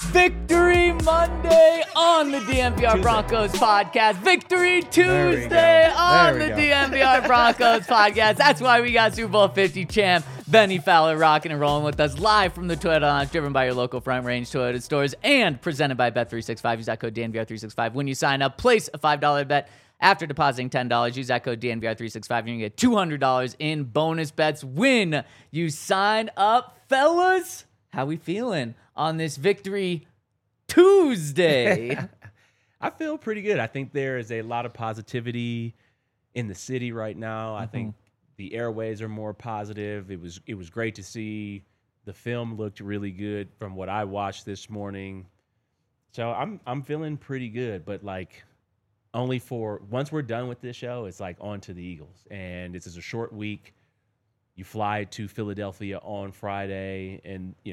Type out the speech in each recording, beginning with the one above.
Victory Monday on the DNVR Broncos podcast. Victory Tuesday on the DNVR Broncos podcast. That's why we got Super Bowl 50 champ Bennie Fowler rocking and rolling with us live from the Toyota Lounge, driven by your local Front Range Toyota stores and presented by Bet365. Use that code DNVR365 when you sign up. Place a $5 bet. After depositing $10, use that code DNVR365. You're going to get $200 in bonus bets when you sign up. Fellas, how we feeling on this Victory Tuesday? I feel pretty good. I think there is a lot of positivity in the city right now. I think the airways are more positive. It was great to see. The film looked really good from what I watched this morning. So I'm feeling pretty good, but like only for once we're done with this show, it's like on to the Eagles. And this is a short week. You fly to Philadelphia on Friday, and you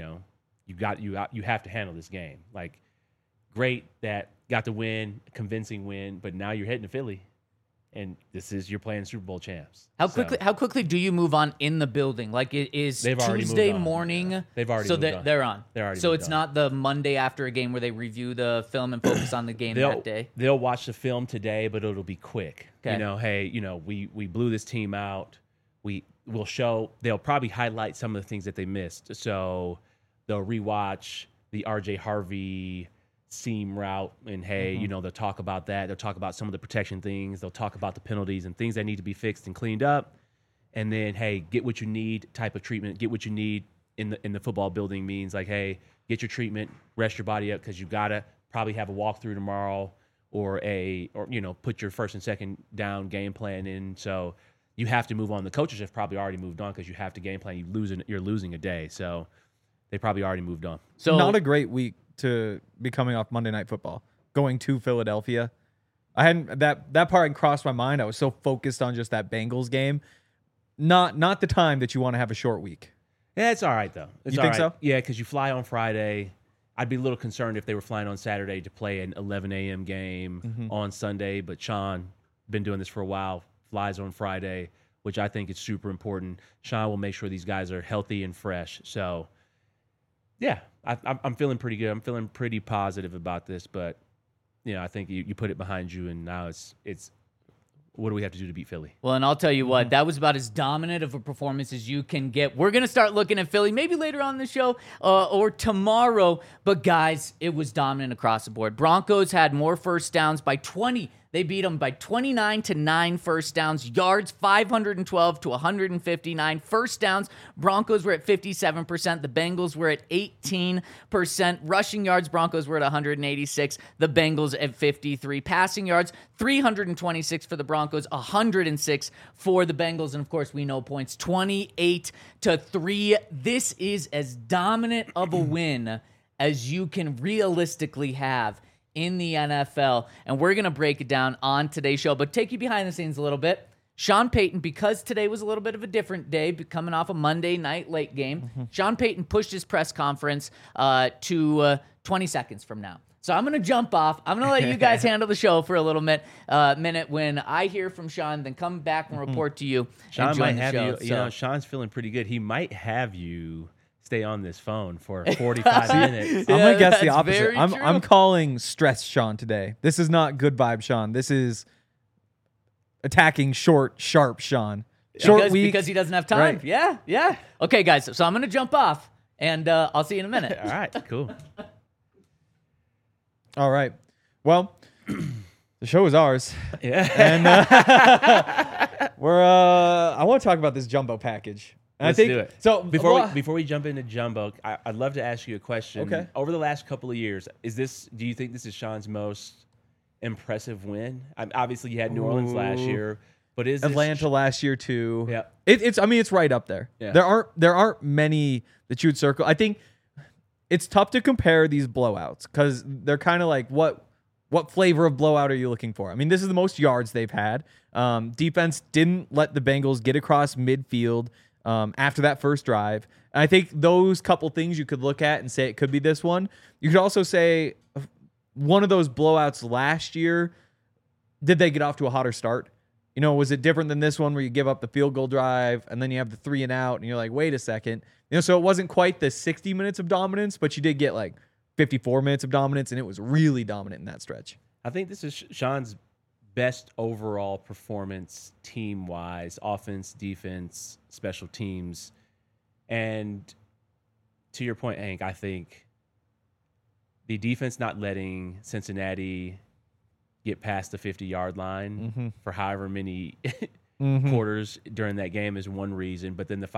have to handle this game. Like, great that got the win, convincing win, but now you're heading to Philly, and you're playing Super Bowl champs. How quickly do you move on in the building? Like, it is Tuesday morning. Yeah. They've already so moved on. They're on. They're already so moved it's on. not the Monday after a game where they review the film and focus on the game that day. They'll watch the film today, but it'll be quick. Okay. We blew this team out. They'll probably highlight some of the things that they missed. So they'll rewatch the RJ Harvey seam route, and they'll talk about that. They'll talk about some of the protection things. They'll talk about the penalties and things that need to be fixed and cleaned up. And then, get what you need type of treatment. Get what you need in the football building means like, get your treatment, rest your body up, because you gotta probably have a walkthrough tomorrow or put your first and second down game plan in. So you have to move on. The coaches have probably already moved on because you have to game plan. You're losing a day, so they probably already moved on. So not a great week to be coming off Monday Night Football, going to Philadelphia. I hadn't that part hadn't crossed my mind. I was so focused on just that Bengals game. Not the time that you want to have a short week. Yeah, it's all right though. You think so? Yeah, because you fly on Friday. I'd be a little concerned if they were flying on Saturday to play an 11 a.m. game on Sunday. But Sean, been doing this for a while, flies on Friday, which I think is super important. Sean will make sure these guys are healthy and fresh. So, yeah, I'm feeling pretty good. I'm feeling pretty positive about this. But, I think you put it behind you, and now it's what do we have to do to beat Philly? Well, and I'll tell you what, that was about as dominant of a performance as you can get. We're going to start looking at Philly maybe later on in the show or tomorrow. But, guys, it was dominant across the board. Broncos had more first downs by 20. They beat them by 29 to 9 first downs. Yards, 512 to 159. First downs, Broncos were at 57%. The Bengals were at 18%. Rushing yards, Broncos were at 186. The Bengals at 53. Passing yards, 326 for the Broncos, 106 for the Bengals. And, of course, we know points, 28 to 3. This is as dominant of a win as you can realistically have in the NFL, and we're going to break it down on today's show, but take you behind the scenes a little bit. Sean Payton, because today was a little bit of a different day, coming off a Monday night late game, Sean Payton pushed his press conference to 20 seconds from now. So I'm going to jump off. I'm going to let you guys handle the show for a little minute. When I hear from Sean, then come back and report to you. Sean might have you. Sean's feeling pretty good. He might have you stay on this phone for 45 minutes. I'm gonna guess the opposite. I'm calling stress Sean today. This is not good vibe Sean. This is attacking short, sharp Sean. Because he doesn't have time. Right. Yeah. Okay, guys. So I'm gonna jump off, and I'll see you in a minute. All right, cool. All right. Well, the show is ours. Yeah. And I want to talk about this jumbo package. Let's do it. So before we jump into jumbo, I'd love to ask you a question. Okay. Over the last couple of years, do you think this is Sean's most impressive win? Obviously, you had New Orleans last year, but is Atlanta last year too? Yeah. It's right up there. Yeah. There aren't many that you would circle. I think it's tough to compare these blowouts because they're kind of like what flavor of blowout are you looking for? I mean, this is the most yards they've had. Defense didn't let the Bengals get across midfield after that first drive. And I think those couple things you could look at and say it could be this one. You could also say one of those blowouts last year, did they get off to a hotter start? Was it different than this one where you give up the field goal drive and then you have the 3 and out and you're like, wait a second. So it wasn't quite the 60 minutes of dominance, but you did get like 54 minutes of dominance, and it was really dominant in that stretch. I think this is Sean's best overall performance team-wise, offense, defense, special teams. And to your point, Hank, I think the defense not letting Cincinnati get past the 50-yard line for however many quarters during that game is one reason, but then the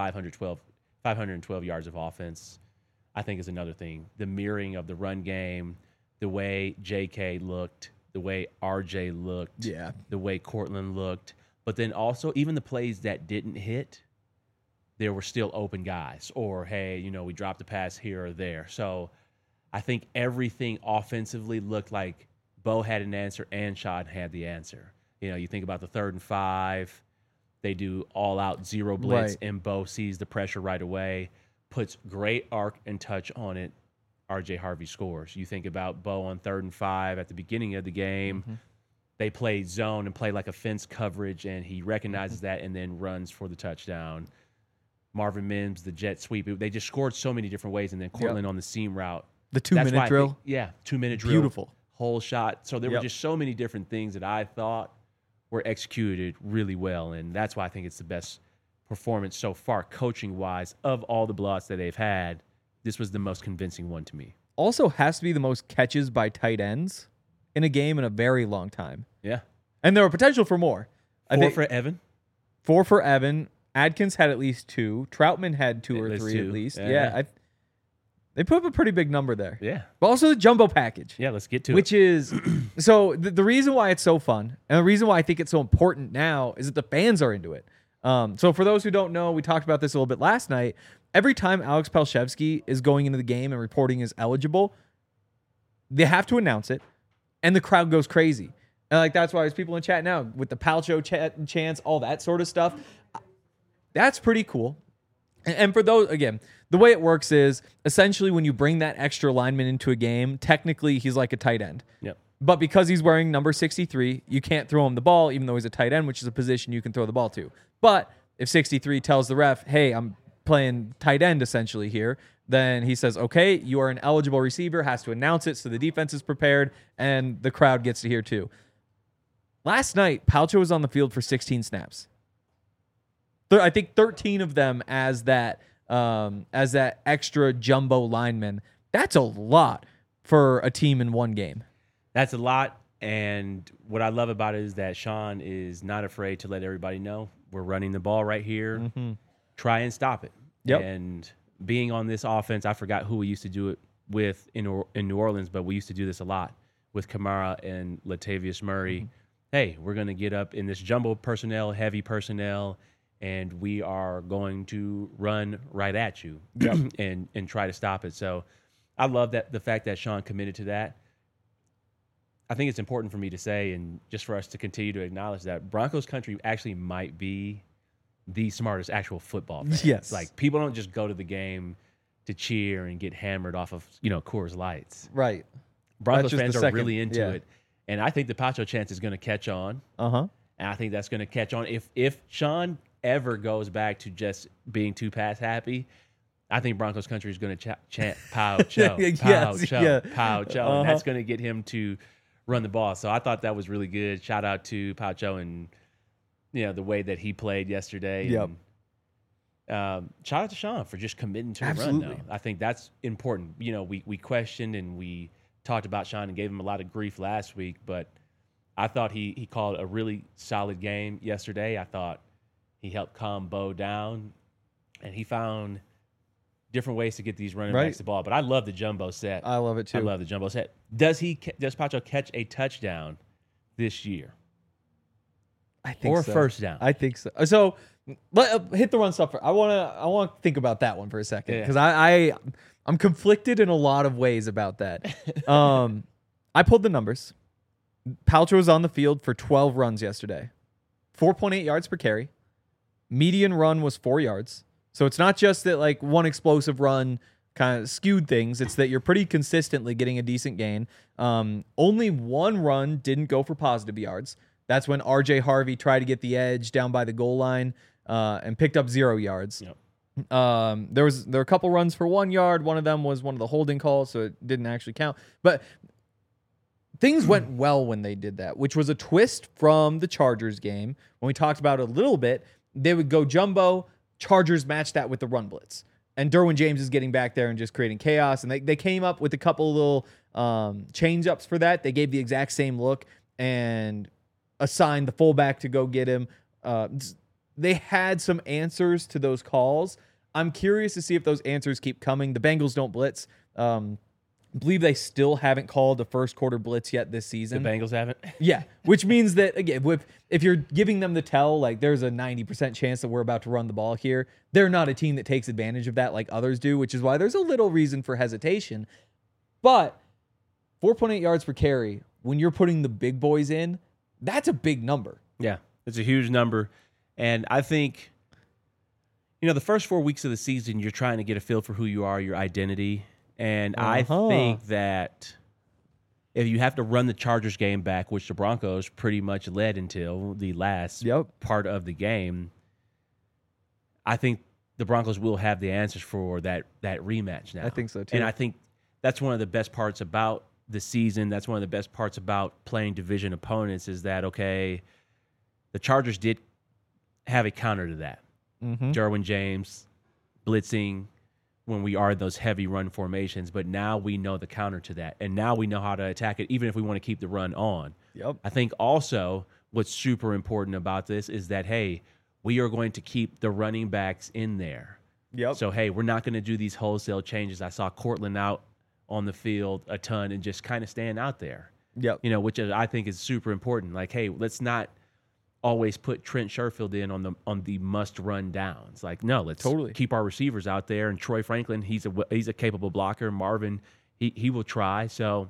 512 yards of offense, I think, is another thing. The mirroring of the run game, the way J.K. looked, the way R.J. looked, the way Cortland looked, but then also even the plays that didn't hit, there were still open guys. Or, hey, we dropped a pass here or there. So I think everything offensively looked like Bo had an answer and Sean had the answer. You think about the 3rd and 5, they do all-out zero blitz, and Bo sees the pressure right away, puts great arc and touch on it. R.J. Harvey scores. You think about Bo on 3rd and 5 at the beginning of the game. They play zone and play like a fence coverage, and he recognizes that and then runs for the touchdown. Marvin Mims, the jet sweep. They just scored so many different ways, and then Cortland on the seam route. The 2-minute drill. 2-minute drill. Beautiful. Whole shot. So there were just so many different things that I thought were executed really well, and that's why I think it's the best performance so far, coaching-wise, of all the blowouts that they've had. This was the most convincing one to me. Also has to be the most catches by tight ends in a game in a very long time. Yeah. And there were potential for more. 4 for Evan. 4 for Evan. Adkins had at least 2. Troutman had 2 or 3 at least. They put up a pretty big number there. Yeah. But also the jumbo package. Yeah, let's get to it. Which is, so the reason why it's so fun, and the reason why I think it's so important now, is that the fans are into it. So for those who don't know, we talked about this a little bit last night. Every time Alex Palshevsky is going into the game and reporting is eligible, they have to announce it, and the crowd goes crazy. And that's why there's people in chat now with the Palcho chants, all that sort of stuff. That's pretty cool. And for those, again, the way it works is essentially when you bring that extra lineman into a game, technically he's like a tight end. Yep. But because he's wearing number 63, you can't throw him the ball, even though he's a tight end, which is a position you can throw the ball to. But if 63 tells the ref, hey, I'm playing tight end essentially here, then he says, okay, you are an eligible receiver, has to announce it so the defense is prepared, and the crowd gets to hear too. Last night, Palcho was on the field for 16 snaps. I think 13 of them as that extra jumbo lineman. That's a lot for a team in one game. That's a lot, and what I love about it is that Sean is not afraid to let everybody know we're running the ball right here. Try and stop it. Yep. And being on this offense, I forgot who we used to do it with in New Orleans, but we used to do this a lot with Kamara and Latavius Murray. Hey, we're going to get up in this jumbo personnel, heavy personnel, and we are going to run right at you and try to stop it. So I love that the fact that Sean committed to that. I think it's important for me to say, and just for us to continue to acknowledge that Broncos country actually might be the smartest actual football fans. Yes. Like, people don't just go to the game to cheer and get hammered off of, Coors Lights. Right. Broncos fans are really into it. And I think the Pacho chance is going to catch on. And I think that's going to catch on. If Sean ever goes back to just being too pass happy, I think Broncos country is going to chant Pow Cho, Pow Cho, Pow Cho. And that's going to get him to run the ball. So I thought that was really good. Shout out to Pow Cho and the way that he played yesterday. Yep. And, shout out to Sean for just committing to the run. Though. I think that's important. We questioned and we talked about Sean and gave him a lot of grief last week, but I thought he called a really solid game yesterday. I thought he helped calm Bo down, and he found different ways to get these running backs the ball. But I love the jumbo set. I love it too. I love the jumbo set. Does Pacho catch a touchdown this year? I think or so. a first down? I think so. So hit the run stuff. I want to think about that one for a second because I'm conflicted in a lot of ways about that. I pulled the numbers. Paltrow was on the field for 12 runs yesterday, 4.8 yards per carry. Median run was 4 yards. So it's not just that like one explosive run kind of skewed things. It's that you're pretty consistently getting a decent gain. Only one run didn't go for positive yards. That's when R.J. Harvey tried to get the edge down by the goal line and picked up 0 yards. Yep. There were a couple runs for 1 yard. One of them was one of the holding calls, so it didn't actually count. But things went well when they did that, which was a twist from the Chargers game. When we talked about it a little bit, they would go jumbo, Chargers match that with the run blitz. And Derwin James is getting back there and just creating chaos. And they came up with a couple little change-ups for that. They gave the exact same look and assigned the fullback to go get him. They had some answers to those calls. I'm curious to see if those answers keep coming. The Bengals don't blitz. I believe they still haven't called a first quarter blitz yet this season. The Bengals haven't? Yeah, which means that, again, if you're giving them the tell, like there's a 90% chance that we're about to run the ball here, they're not a team that takes advantage of that like others do, which is why there's a little reason for hesitation. But 4.8 yards per carry, when you're putting the big boys in, that's a big number. Yeah, it's a huge number. And I think, the first 4 weeks of the season, you're trying to get a feel for who you are, your identity. And I think that if you have to run the Chargers game back, which the Broncos pretty much led until the last part of the game, I think the Broncos will have the answers for that rematch now. I think so, too. And I think that's one of the best parts about the season. That's one of the best parts about playing division opponents is that, okay, the Chargers did have a counter to that. Derwin James blitzing when we are in those heavy run formations, but now we know the counter to that, and now we know how to attack it, even if we want to keep the run on. I think also what's super important about this is that, hey, we are going to keep the running backs in there. So, hey, we're not going to do these wholesale changes. I saw Cortland out on the field a ton and just kind of staying out there, which I think is super important. Like, hey, let's not always put Trent Sherfield in on the must run downs. Like, no, let's keep our receivers out there. And Troy Franklin, he's a capable blocker. Marvin, he will try. So,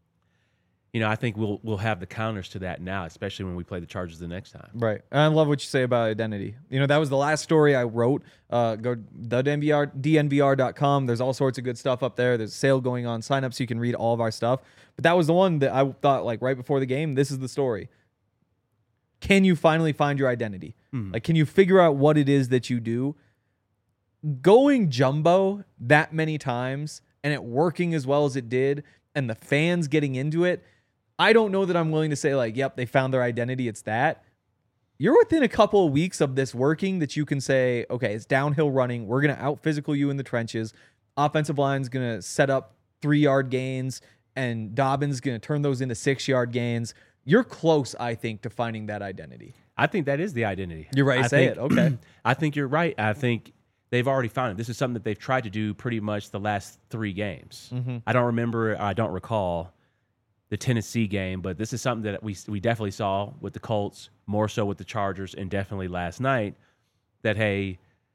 I think we'll have the counters to that now, especially when we play the Chargers the next time. Right. And I love what you say about identity. That was the last story I wrote. Go to DNVR.com. There's all sorts of good stuff up there. There's a sale going on. Sign up so you can read all of our stuff. But that was the one that I thought, like, right before the game, this is the story. Can you finally find your identity? Like, can you figure out what it is that you do? Going jumbo that many times and it working as well as it did and the fans getting into it, I don't know that I'm willing to say, like, yep, they found their identity. It's that. You're within a couple of weeks of this working that you can say, okay, it's downhill running. We're going to out-physical you in the trenches. Offensive line's going to set up 3-yard gains, and Dobbins going to turn those into 6-yard gains. You're close, I think, to finding that identity. I think that is the identity. You're right. Say it. Okay. I think you're right. I think they've already found it. This is something that they've tried to do pretty much the last 3 games. I don't recall the Tennessee game, but this is something that we definitely saw with the Colts, more so with the Chargers, and definitely last night, that, hey,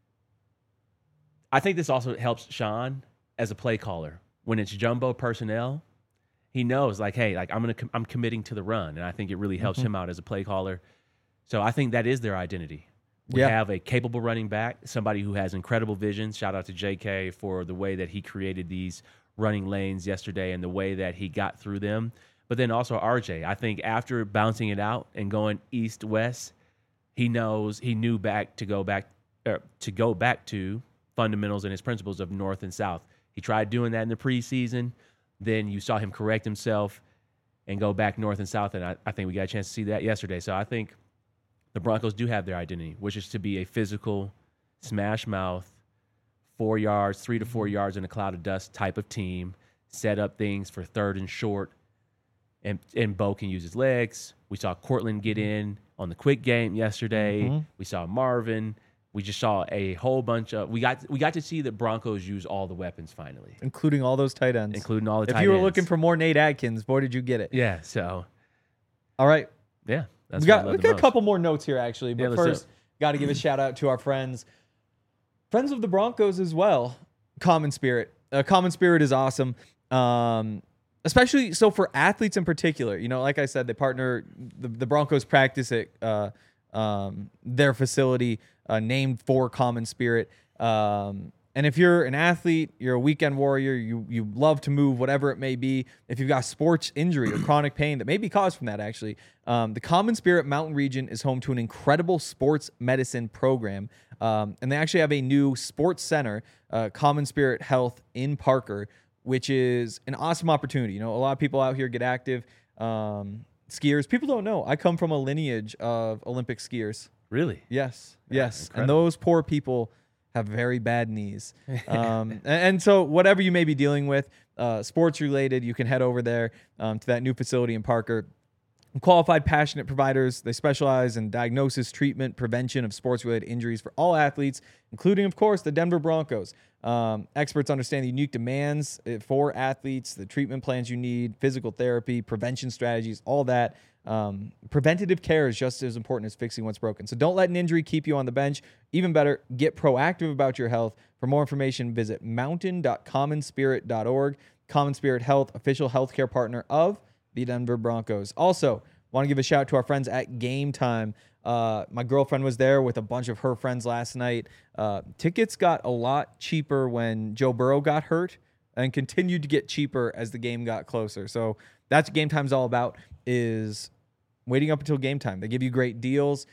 I think this also helps Sean as a play caller. When it's jumbo personnel, he knows, like, hey, like I'm committing to the run, and I think it really helps him out as a play caller. So I think that is their identity. We have a capable running back, somebody who has incredible vision. Shout out to JK for the way that he created these running lanes yesterday and the way that he got through them. But then also RJ, I think after bouncing it out and going east-west, he knew to go back to fundamentals and his principles of north and south. He tried doing that in the preseason. Then you saw him correct himself and go back north and south, and I think we got a chance to see that yesterday. So I think the Broncos do have their identity, which is to be a physical, smash mouth, 3 to 4 yards in a cloud of dust type of team, set up things for third and short, and Bo can use his legs. We saw Cortland get in on the quick game yesterday. We saw Marvin. We just saw a whole bunch of we got to see the Broncos use all the weapons finally, including all those tight ends. If you were looking for more Nate Adkins, boy, did you get it? Yeah. So, all right. Yeah, that's we got a couple more notes here actually, but first, got to give a shout out to our friends of the Broncos as well. Common Spirit. Common Spirit is awesome. Especially so for athletes in particular. Like I said, they partner the Broncos practice at their facility named for Common Spirit. And if you're an athlete, you're a weekend warrior, you love to move, whatever it may be. If you've got sports injury or chronic pain that may be caused from that, actually, the Common Spirit Mountain Region is home to an incredible sports medicine program. And they actually have a new sports center, Common Spirit Health in Parker, which is an awesome opportunity. You know, a lot of people out here get active. Skiers, people don't know. I come from a lineage of Olympic skiers. Really? Yes. And incredible. those poor people have very bad knees. And so whatever you may be dealing with, sports related, you can head over there to that new facility in Parker. Qualified, passionate providers. They specialize in diagnosis, treatment, prevention of sports-related injuries for all athletes, including, of course, the Denver Broncos. Experts understand the unique demands for athletes, the treatment plans you need, physical therapy, prevention strategies, all that. Preventative care is just as important as fixing what's broken. So don't let an injury keep you on the bench. Even better, get proactive about your health. For more information, visit mountain.commonspirit.org. Common Spirit Health, official healthcare partner of the Denver Broncos. Also, want to give a shout out to our friends at Game Time. My girlfriend was there with a bunch of her friends last night. Tickets got a lot cheaper when Joe Burrow got hurt and continued to get cheaper as the game got closer. So that's what Game Time's all about, is waiting up until game time. They give you great deals.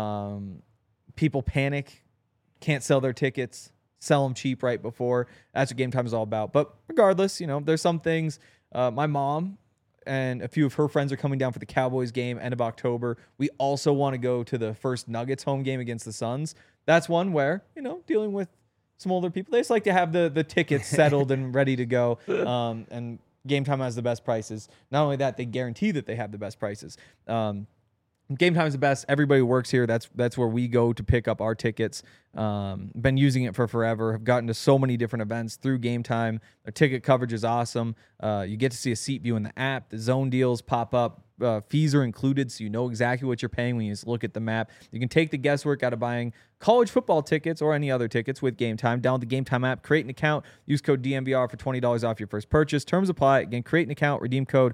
People panic, can't sell their tickets, sell them cheap right before. That's what Game Time is all about. But regardless, you know, there's some things. My mom and a few of her friends are coming down for the Cowboys game end of October. We also want to go to the first Nuggets home game against the Suns. That's one where, you know, dealing with some older people, they just like to have the tickets settled and ready to go. And Game Time has the best prices. Not only that, they guarantee that they have the best prices. Game Time is the best. Everybody works here. That's where we go to pick up our tickets. Been using it for forever. Have gotten to so many different events through Game Time. Their ticket coverage is awesome. You get to see a seat view in the app. The zone deals pop up. Fees are included, so you know exactly what you're paying when you just look at the map. You can take the guesswork out of buying college football tickets or any other tickets with Game Time. Download the Game Time app, create an account, use code DNVR for $20 off your first purchase. Terms apply. Again, create an account, redeem code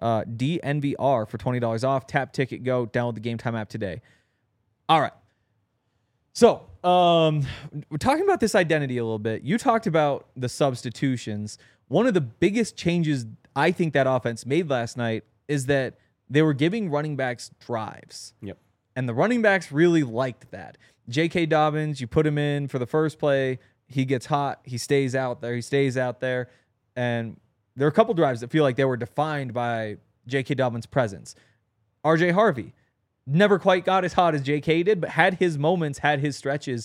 DNVR for $20 off. Tap Ticket Go. Download the Game Time app today. All right. So, we're talking about this identity a little bit. You talked about the substitutions. One of the biggest changes I think that offense made last night is that they were giving running backs drives. Yep. And the running backs really liked that. J.K. Dobbins, you put him in for the first play. He gets hot. He stays out there. And there are a couple drives that feel like they were defined by J.K. Dobbins' presence. R.J. Harvey never quite got as hot as J.K. did, but had his moments, had his stretches.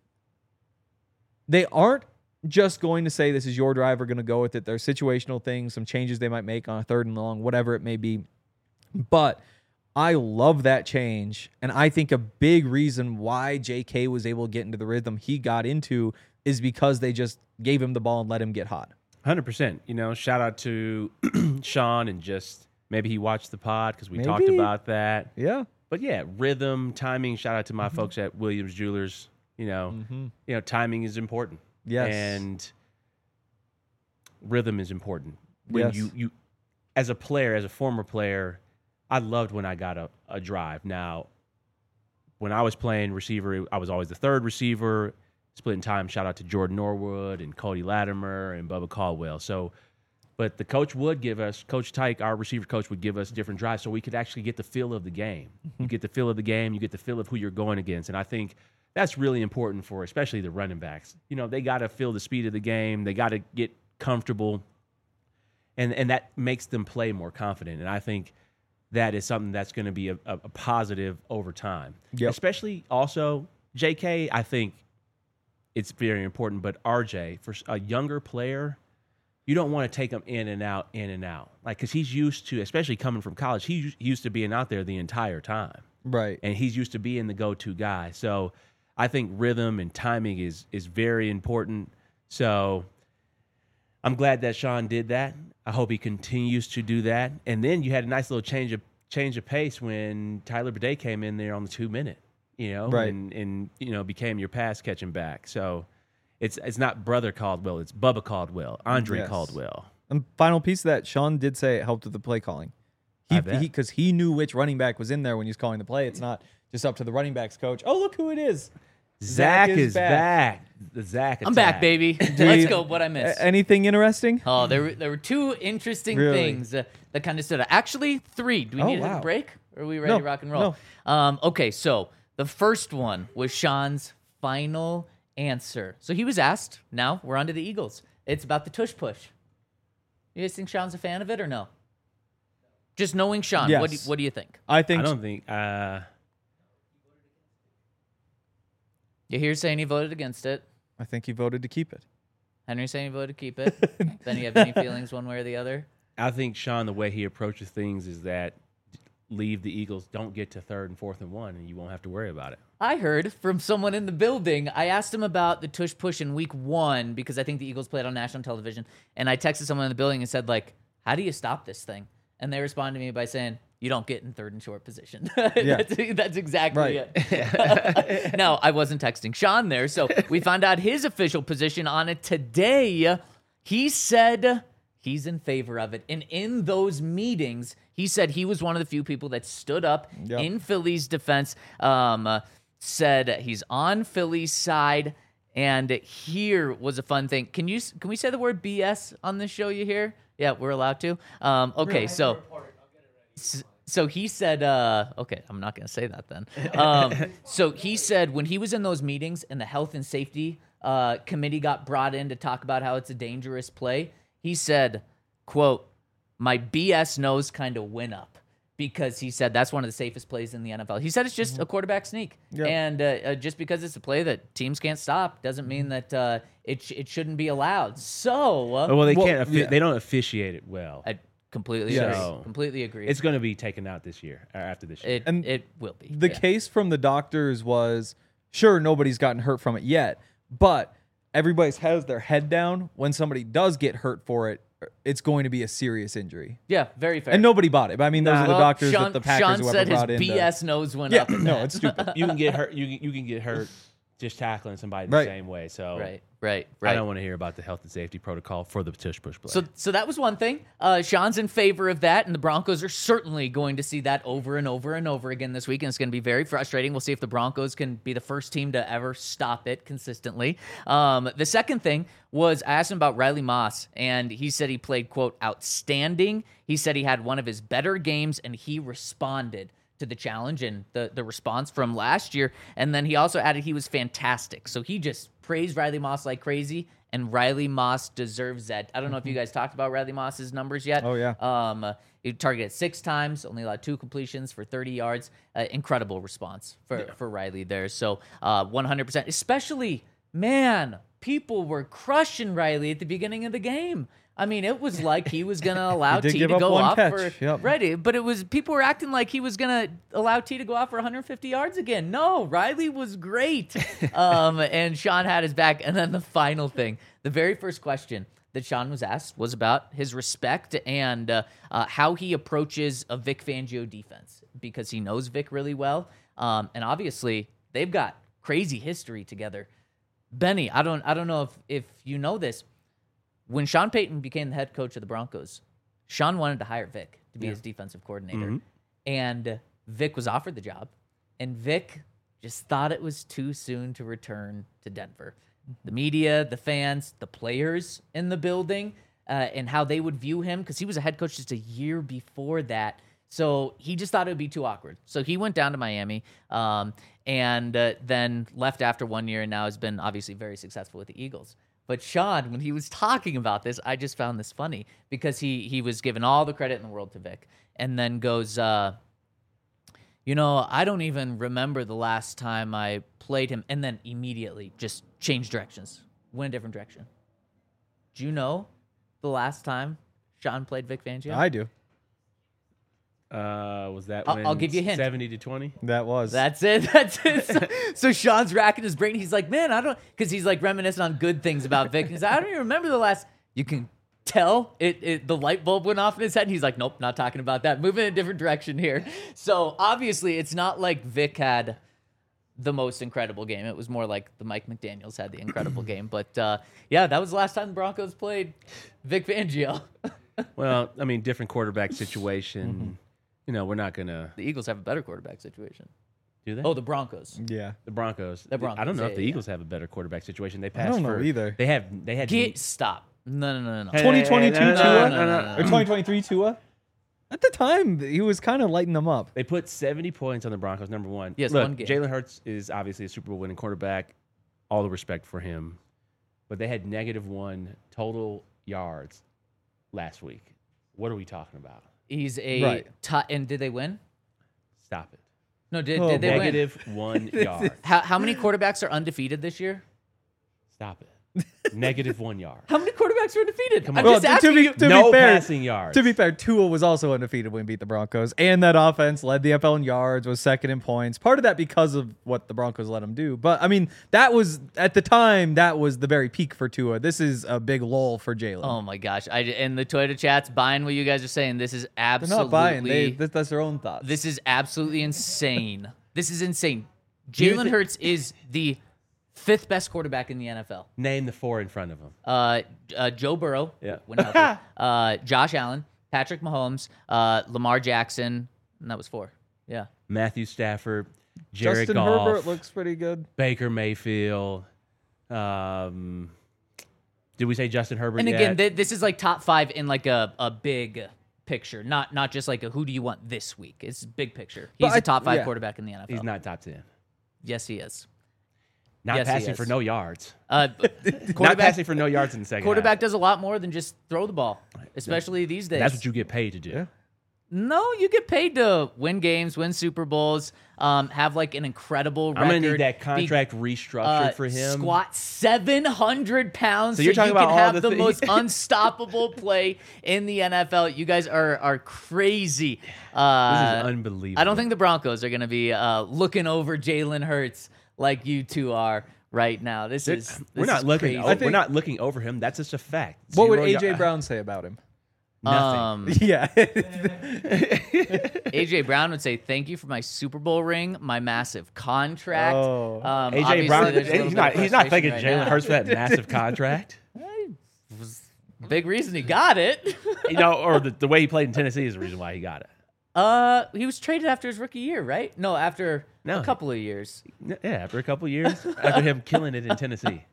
They aren't just going to say this is your drive, we're going to go with it. There are situational things, some changes they might make on a third and long, whatever it may be. But I love that change, and I think a big reason why J.K. was able to get into the rhythm he got into is because they just gave him the ball and let him get hot. 100%. You know, shout out to Sean, and just maybe he watched the pod because we talked about that. Yeah. But yeah, rhythm, timing. Shout out to my folks at Williams Jewelers. You know, timing is important. Yes. And rhythm is important. When Yes. you as a player, as a former player, I loved when I got a drive. Now, when I was playing receiver, I was always the third receiver, splitting time. Shout out to Jordan Norwood and Cody Latimer and Bubba Caldwell. So, but the coach would give us, Coach Tyke, our receiver coach, would give us different drives so we could actually get the feel of the game. You get the feel of the game, you get the feel of who you're going against. And I think that's really important for especially the running backs. You know, they got to feel the speed of the game. They got to get comfortable. And that makes them play more confident. And I think that is something that's going to be a positive over time. Yep. Especially also, JK, I think it's very important. But RJ, for a younger player, you don't want to take him in and out. Like, because he's used to, especially coming from college, he's used to being out there the entire time. Right. And he's used to being the go-to guy. So I think rhythm and timing is very important. So I'm glad that Sean did that. I hope he continues to do that. And then you had a nice little change of pace when Tyler Bidet came in there on the 2-minute, right. and became your pass catching back. So it's not Brother Caldwell, it's Bubba Caldwell, Andre Caldwell. And final piece of that, Sean did say it helped with the play calling. Because he knew which running back was in there when he was calling the play. It's not just up to the running backs coach. Oh, look who it is. Zach is back. The Zach attack. I'm back, baby. Let's go. What I missed. Anything interesting? Oh, there were two interesting Really? things that kind of stood out. Actually, three. Do we need to have a break? Or are we ready No, to rock and roll? Okay, so the first one was Sean's final answer. So he was asked. Now we're on to the Eagles. It's about the tush push. You guys think Sean's a fan of it or no? Just knowing Sean, Yes. what do you think? I think. I don't think. You hear saying he voted against it. I think he voted to keep it. Henry saying he voted to keep it. Then you have any feelings one way or the other? I think Sean, the way he approaches things is that leave the Eagles, don't get to 3rd and 4th and 1, and you won't have to worry about it. I heard from someone in the building. I asked him about the tush push in week 1 because I think the Eagles played on national television. And I texted someone in the building and said, like, how do you stop this thing? And they responded to me by saying, you don't get in 3rd and short position. Yeah. That's exactly Right. it. No, I wasn't texting Sean there. So we found out his official position on it today. He said he's in favor of it. And in those meetings, he said he was one of the few people that stood up in Philly's defense, said he's on Philly's side. And here was a fun thing. Can we say the word BS on this show, you hear? Yeah, we're allowed to. Okay, so he said, okay, I'm not going to say that then. So he said when he was in those meetings and the health and safety committee got brought in to talk about how it's a dangerous play, he said, quote, my BS nose kind of went up because he said that's one of the safest plays in the NFL. He said it's just a quarterback sneak. Yeah. And just because it's a play that teams can't stop doesn't mean that it shouldn't be allowed. So, Well, they can't. They don't officiate it well. I completely Yes. agree. Completely agree. It's going to be taken out this year or after this year. It will be. The case from the doctors was, sure, nobody's gotten hurt from it yet, but everybody has their head down. When somebody does get hurt for it, it's going to be a serious injury. Yeah, very fair. And nobody bought it. But I mean, those are the doctors Sean, that the Packers Sean whoever said his brought in. BS nose went Yeah, up. in no, that. it's stupid. You can get hurt. You can get hurt just tackling somebody the Right. same way. So Right. I don't want to hear about the health and safety protocol for the tush push play. So that was one thing. Sean's in favor of that, and the Broncos are certainly going to see that over and over and over again this week, and it's going to be very frustrating. We'll see if the Broncos can be the first team to ever stop it consistently. The second thing was I asked him about Riley Moss, and he said he played, quote, outstanding. He said he had one of his better games, and he responded to the challenge and the response from last year. And then he also added he was fantastic. So he just praised Riley Moss like crazy, and Riley Moss deserves that. I don't know if you guys talked about Riley Moss's numbers yet. Oh, yeah. He targeted 6 times, only allowed 2 completions for 30 yards. Incredible response for Riley there. So 100%, especially, man, people were crushing Riley at the beginning of the game. I mean, it was like he was going to allow He did T give to up go one off catch. for Yep. Ready, but it was people were acting like he was going to allow T to go off for 150 yards again. No, Riley was great, and Sean had his back. And then the final thing, the very first question that Sean was asked was about his respect and how he approaches a Vic Fangio defense because he knows Vic really well, and obviously they've got crazy history together. Benny, I don't know if you know this. When Sean Payton became the head coach of the Broncos, Sean wanted to hire Vic to be his defensive coordinator. And Vic was offered the job. And Vic just thought it was too soon to return to Denver. The media, the fans, the players in the building, and how they would view him, because he was a head coach just a year before that. So he just thought it would be too awkward. So he went down to Miami and then left after 1 year and now has been obviously very successful with the Eagles. But Sean, when he was talking about this, I just found this funny because he was giving all the credit in the world to Vic and then goes, I don't even remember the last time I played him, and then immediately just changed directions, went a different direction. Do you know the last time Sean played Vic Fangio? I do. Was that I'll give you a hint. 70-20? That was. That's it. So Sean's racking his brain. He's like, man, I don't, because he's like reminiscing on good things about Vic. He's like, I don't even remember the last. You can tell the light bulb went off in his head. And he's like, nope, not talking about that. Moving in a different direction here. So obviously, it's not like Vic had the most incredible game. It was more like the Mike McDaniels had the incredible game. But yeah, that was the last time the Broncos played Vic Fangio. Well, I mean, different quarterback situation. We're not going to. The Eagles have a better quarterback situation. Do they? Oh, the Broncos. Yeah. The Broncos. The Broncos, I don't know if yeah, the yeah. Eagles have a better quarterback situation. They I passed don't know for either. They had Stop. No. Hey, 2022 no, Tua? no. Or 2023 Tua? At the time, he was kind of lighting them up. They put 70 points on the Broncos, number one. Yes, Look, one game. Jalen Hurts is obviously a Super Bowl winning quarterback. All the respect for him. But they had -1 total yards last week. What are we talking about? He's a Right. and did they win? Stop it. No, did Oh, they win? -1 yard. How many quarterbacks are undefeated this year? Stop it. -1 yard. How many quarterbacks are undefeated? I'm on. just Well, asking you. No be fair, passing yards. To be fair, Tua was also undefeated when he beat the Broncos, and that offense led the NFL in yards, was second in points. Part of that because of what the Broncos let him do. But I mean, that was at the time that was the very peak for Tua. This is a big lull for Jalen. Oh my gosh! And the Toyota chat's buying what you guys are saying. This is They're absolutely. not buying. That's their own thoughts. This is absolutely insane. This is insane. you Jalen thi- Hurts is the 5th best quarterback in the NFL. Name the 4 in front of him. Joe Burrow, Yeah. when healthy. Josh Allen, Patrick Mahomes, Lamar Jackson, and that was 4. Yeah. Matthew Stafford, Jared Justin Goff, Herbert looks pretty good. Baker Mayfield. Did we say Justin Herbert And yet? again, this is like top 5 in like a big picture, not just like a who do you want this week. It's big picture. He's But a top 5 yeah. quarterback in the NFL. He's not top 10. Yes, he is. Not Yes, he passing is. for no yards. Not Not passing for no yards in the second Quarterback half. does a lot more than just throw the ball, especially these days. That's what you get paid to do. Yeah. No, you get paid to win games, win Super Bowls, have like an incredible record. I'm going to need that be- contract restructured for him. Squat 700 pounds So you're talking you about can all have the the thi- most unstoppable play in the NFL. You guys are crazy. This is unbelievable. I don't think the Broncos are going to be looking over Jalen Hurts like you two are right now. We're not looking. crazy. We're not looking over him. That's just a fact. What would 0 AJ yard- Brown say about him? Nothing. Yeah. AJ Brown would say, "Thank you for my Super Bowl ring, my massive contract." Oh. AJ Obviously, Brown. there's a little He's bit not. of He's not frustration thanking right Jalen now. Hurts for that massive contract. Big reason he got it. Or the way he played in Tennessee is the reason why he got it. He was traded after his rookie year, right? No, after No. a couple of years. Yeah, after a couple of years, after him killing it in Tennessee.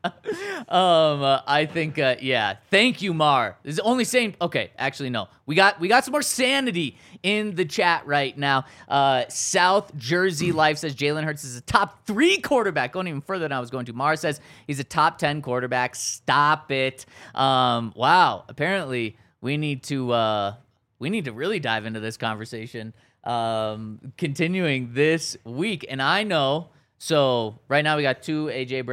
I think, yeah. Thank you, Mar. This is only saying, okay, actually, no. We got some more sanity in the chat right now. South Jersey Life says Jalen Hurts is a top 3 quarterback. Going even further than I was going to. Mar says he's a top 10 quarterback. Stop it. Wow. Apparently, we need to really dive into this conversation. Continuing this week, and I know. So right now we got 2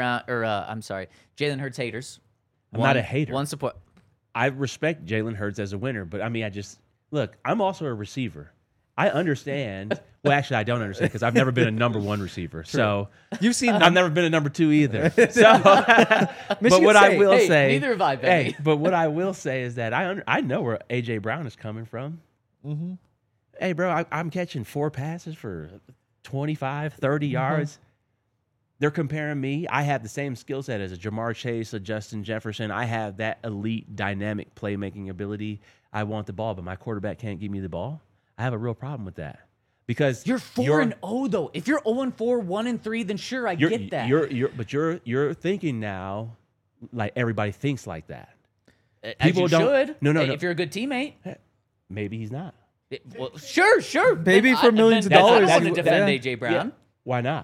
Jalen Hurts haters. I'm not a hater. One support. I respect Jalen Hurts as a winner, but I mean, look. I'm also a receiver. I understand. Well, actually, I don't understand because I've never been a number 1 receiver. So You've seen I've never been a number 2 either. So, but what I will Hey, say, neither have I, Benny. hey, but what I will say is that I know where AJ Brown is coming from. Mm-hmm. Hey, bro, I'm catching 4 passes for 25, 30 yards. They're comparing me. I have the same skill set as a Jamar Chase, a Justin Jefferson. I have that elite, dynamic playmaking ability. I want the ball, but my quarterback can't give me the ball. I have a real problem with that because You're 4-0 though. If you're 0-4, 1-3, then sure, I get that. You're thinking now like everybody thinks like that. As people you don't- should. No, no, Hey, no. If you're a good teammate. Maybe he's not. Well, sure. Maybe for millions of then I dollars, don't want to you- defend yeah. AJ Brown. Why not?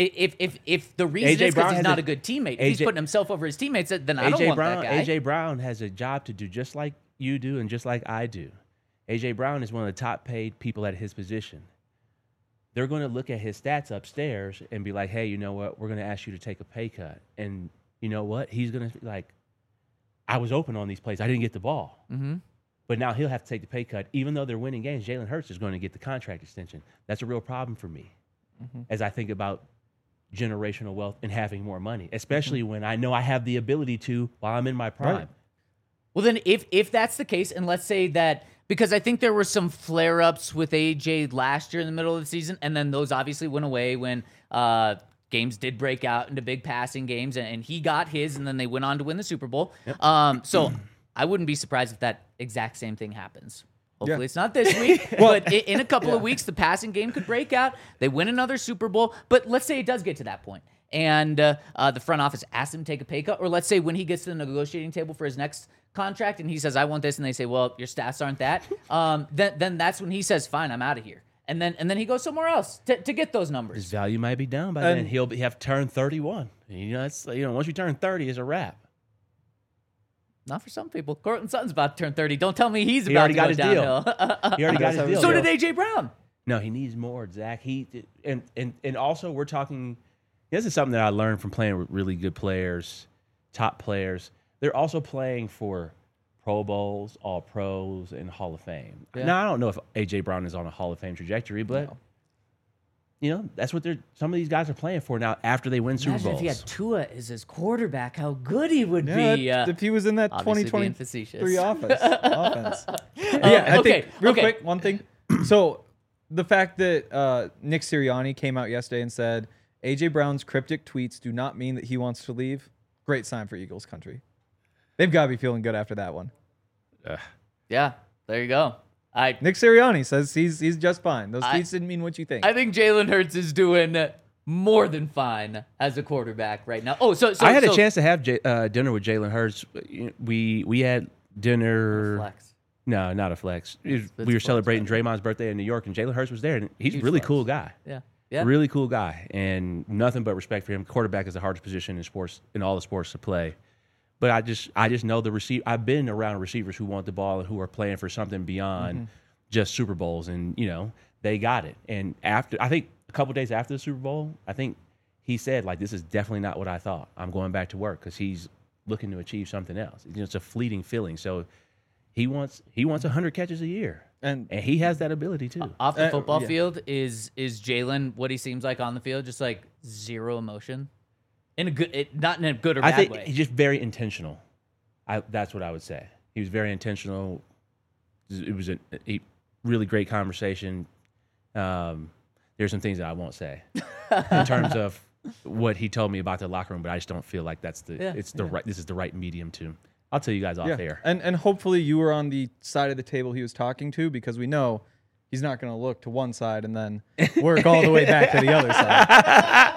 If the reason AJ is Brown because he's has not a- a good teammate, if he's AJ putting himself over his teammates, then I don't want Brown, that guy. AJ Brown has a job to do just like you do and just like I do. AJ Brown is one of the top paid people at his position. They're going to look at his stats upstairs and be like, hey, you know what? We're going to ask you to take a pay cut. And you know what? He's going to like, I was open on these plays. I didn't get the ball. Mm-hmm. But now he'll have to take the pay cut. Even though they're winning games, Jalen Hurts is going to get the contract extension. That's a real problem for me as I think about generational wealth and having more money, especially when I know I have the ability to while I'm in my prime. Right. Well, then if that's the case, and let's say that, because I think there were some flare-ups with AJ last year in the middle of the season, and then those obviously went away when games did break out into big passing games, and he got his, and then they went on to win the Super Bowl. So I wouldn't be surprised if that exact same thing happens. Hopefully Yeah. it's not this week, but in a couple of weeks, the passing game could break out. They win another Super Bowl, but let's say it does get to that point, and the front office asks him to take a pay cut, or let's say when he gets to the negotiating table for his next contract and he says, I want this, and they say, well, your stats aren't that, then that's when he says, fine, I'm out of here. And then he goes somewhere else to get those numbers. His value might be down by then. He'll have turned 31. It's once you turn 30, it's a wrap. Not for some people. Cortland Sutton's about to turn 30. Don't tell me he's He about already to got go his downhill. deal. He already got his deal. So did AJ Brown. No, he needs more, Zach. And also we're talking. This is something that I learned from playing with really good players, top players. They're also playing for Pro Bowls, All Pros, and Hall of Fame. Yeah. Now I don't know if AJ Brown is on a Hall of Fame trajectory, but that's what some of these guys are playing for now after they win Super Imagine Bowls. if he had Tua as his quarterback, how good he would Yeah, be. if he was in that obviously being 2023 facetious. offense. I think real quick, one thing. So the fact that Nick Sirianni came out yesterday and said AJ Brown's cryptic tweets do not mean that he wants to leave. Great sign for Eagles country. They've got to be feeling good after that one. Yeah, there you go. Nick Sirianni says he's just fine. Those tweets didn't mean what you think. I think Jalen Hurts is doing more than fine as a quarterback right now. Oh, so I had a chance to have dinner with Jalen Hurts. We had dinner. Flex. No, not a flex. We were celebrating Draymond's birthday in New York, and Jalen Hurts was there. And he's a really cool guy. Yeah. Really cool guy, and nothing but respect for him. Quarterback is the hardest position in sports, in all the sports to play. But I just know the receiver. I've been around receivers who want the ball and who are playing for something beyond just Super Bowls, and they got it. And I think a couple days after the Super Bowl, I think he said this is definitely not what I thought. I'm going back to work because he's looking to achieve something else. It's a fleeting feeling. So he wants 100 catches a year, and he has that ability too. Off the football field, is Jalen what he seems like on the field? Just zero emotion. Not in a good or bad way. I think he's just very intentional. That's what I would say. He was very intentional. It was a really great conversation. There's some things that I won't say in terms of what he told me about the locker room, but I just don't feel like this is the right medium to. I'll tell you guys off air. And hopefully you were on the side of the table he was talking to, because we know he's not going to look to one side and then work all the way back to the other side.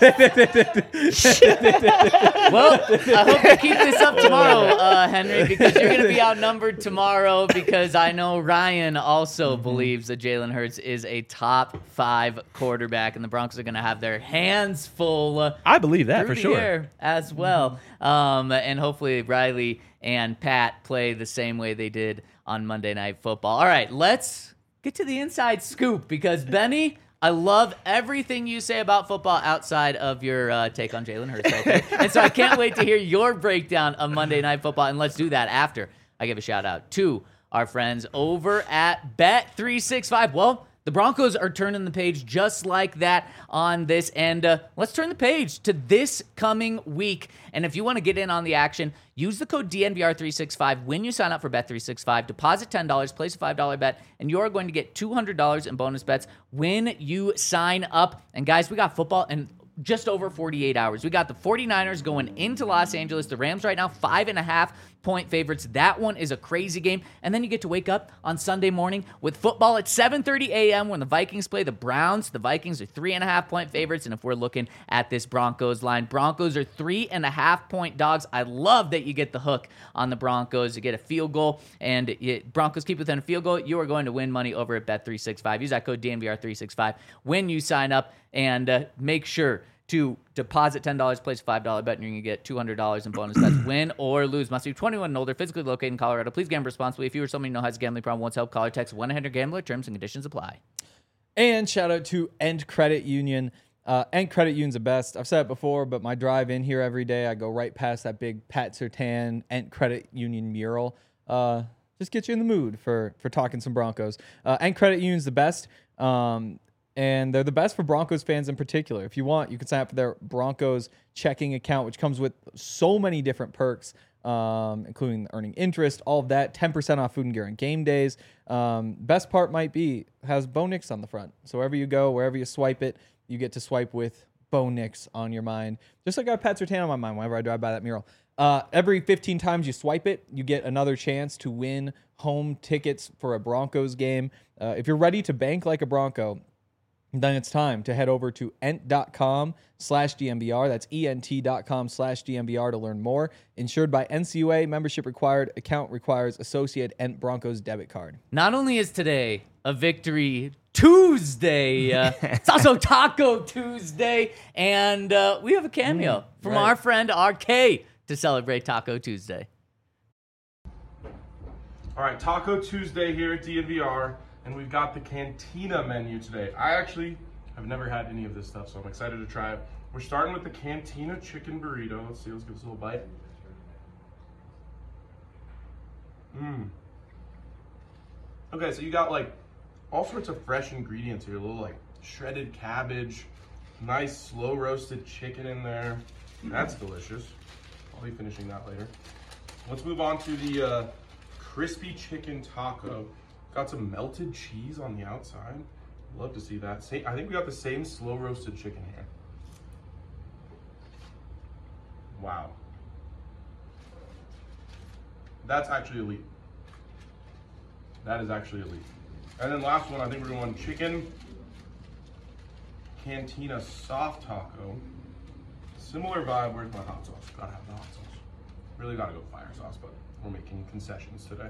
Well, I hope you keep this up tomorrow, Henry, because you're going to be outnumbered tomorrow, because I know Ryan also believes that Jalen Hurts is a top 5 quarterback, and the Broncos are going to have their hands full. I believe that through for the sure. air as well. And hopefully Riley and Pat play the same way they did on Monday Night Football. All right, let's get to the inside scoop, because Benny, I love everything you say about football outside of your take on Jalen Hurts. Okay? And so I can't wait to hear your breakdown of Monday Night Football, and let's do that after I give a shout out to our friends over at Bet365. Well, the Broncos are turning the page just like that on this, and let's turn the page to this coming week. And if you want to get in on the action, use the code DNVR365 when you sign up for Bet365. Deposit $10, place a $5 bet, and you're going to get $200 in bonus bets when you sign up. And guys, we got football in just over 48 hours. We got the 49ers going into Los Angeles. The Rams right now 5.5-point favorites. That one is a crazy game. And then you get to wake up on Sunday morning with football at 7:30 a.m. when the Vikings play the Browns. The Vikings are 3.5-point favorites. And if we're looking at this Broncos line, Broncos are 3.5-point dogs. I love that you get the hook on the Broncos. You get a field goal, and Broncos keep within a field goal. You are going to win money over at Bet365. Use that code DNVR365 when you sign up, and make sure to deposit $10, place a $5 bet, and you're going to get $200 in bonus bets. Win or lose. Must be 21 and older, physically located in Colorado. Please gamble responsibly. If you or someone you know has a gambling problem, wants help, call or text 1-800-GAMBLER. Terms and conditions apply. And shout out to End Credit Union. End Credit Union's the best. I've said it before, but my drive in here every day, I go right past that big Pat Surtain End Credit Union mural. Just get you in the mood for talking some Broncos. End Credit Union's the best. And they're the best for Broncos fans in particular. If you want, you can sign up for their Broncos checking account, which comes with so many different perks, including earning interest, all of that, 10% off food and gear on game days. Best part might be, has Bo Nix on the front. So wherever you go, wherever you swipe it, you get to swipe with Bo Nix on your mind. Just like I have Pat Surtain on my mind whenever I drive by that mural. Every 15 times you swipe it, you get another chance to win home tickets for a Broncos game. If you're ready to bank like a Bronco, then it's time to head over to ent.com/DNVR. That's ent.com/DNVR to learn more. Insured by NCUA, membership required, account requires associated Ent Broncos debit card. Not only is today a Victory Tuesday, it's also Taco Tuesday, and we have a cameo from right. our friend RK to celebrate Taco Tuesday. All right, Taco Tuesday here at DNVR, and we've got the Cantina menu today. I actually have never had any of this stuff, so I'm excited to try it. We're starting with the Cantina chicken burrito. Let's see, let's give this a little bite. Okay, so you got like all sorts of fresh ingredients here. A little like shredded cabbage, nice slow roasted chicken in there. That's delicious. I'll be finishing that later. Let's move on to the crispy chicken taco. Got some melted cheese on the outside. Love to see that. I think we got the same slow roasted chicken here. Wow. That's actually elite. That is actually elite. And then last one, I think we're going chicken Cantina soft taco. Similar vibe. Where's my hot sauce? Gotta have the hot sauce. Really gotta go fire sauce, but we're making concessions today.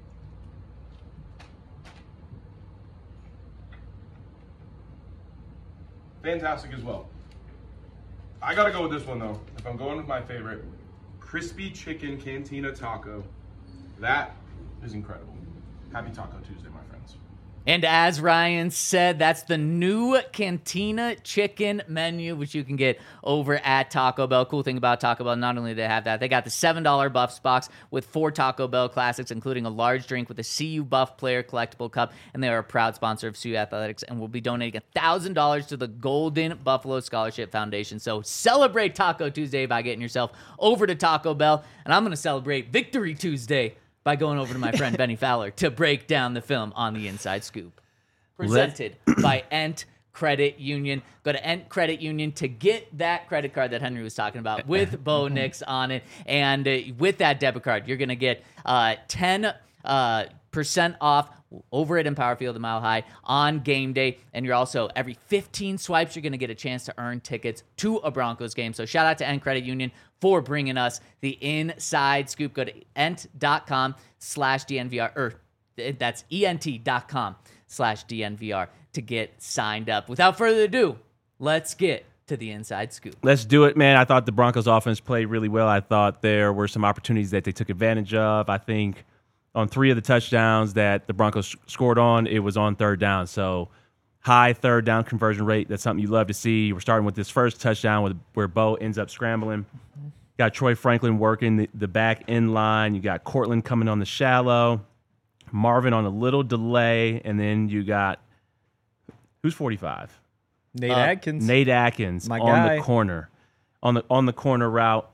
Fantastic as well. I gotta go with this one though. If I'm going with my favorite, crispy chicken Cantina taco. That is incredible. Happy Taco Tuesday, my friends. And as Ryan said, that's the new Cantina chicken menu, which you can get over at Taco Bell. Cool thing about Taco Bell, not only do they have that, they got the $7 Buffs box with 4 Taco Bell classics, including a large drink with a CU Buff player collectible cup. And they are a proud sponsor of CU Athletics and will be donating $1,000 to the Golden Buffalo Scholarship Foundation. So celebrate Taco Tuesday by getting yourself over to Taco Bell. And I'm going to celebrate Victory Tuesday by going over to my friend Benny Fowler to break down the film on the Inside Scoop. Presented by Ent Credit Union. Go to Ent Credit Union to get that credit card that Henry was talking about with Bo Nix on it. And with that debit card, you're going to get 10% off over at Empower Field a Mile High on game day. And you're also, every 15 swipes, you're going to get a chance to earn tickets to a Broncos game. So shout out to Ent Credit Union for bringing us the Inside Scoop. Go to ent.com/DNVR, or that's ent.com/DNVR to get signed up. Without further ado, let's get to the Inside Scoop. Let's do it, man. I thought the Broncos offense played really well. I thought there were some opportunities that they took advantage of. I think on 3 of the touchdowns that the Broncos scored on, it was on third down. So high third down conversion rate. That's something you love to see. We're starting with this first touchdown where Bo ends up scrambling. Got Troy Franklin working the back end line. You got Cortland coming on the shallow. Marvin on a little delay. And then you got, who's 45? Nate Atkins. Nate Atkins My on guy. the corner. On the corner route.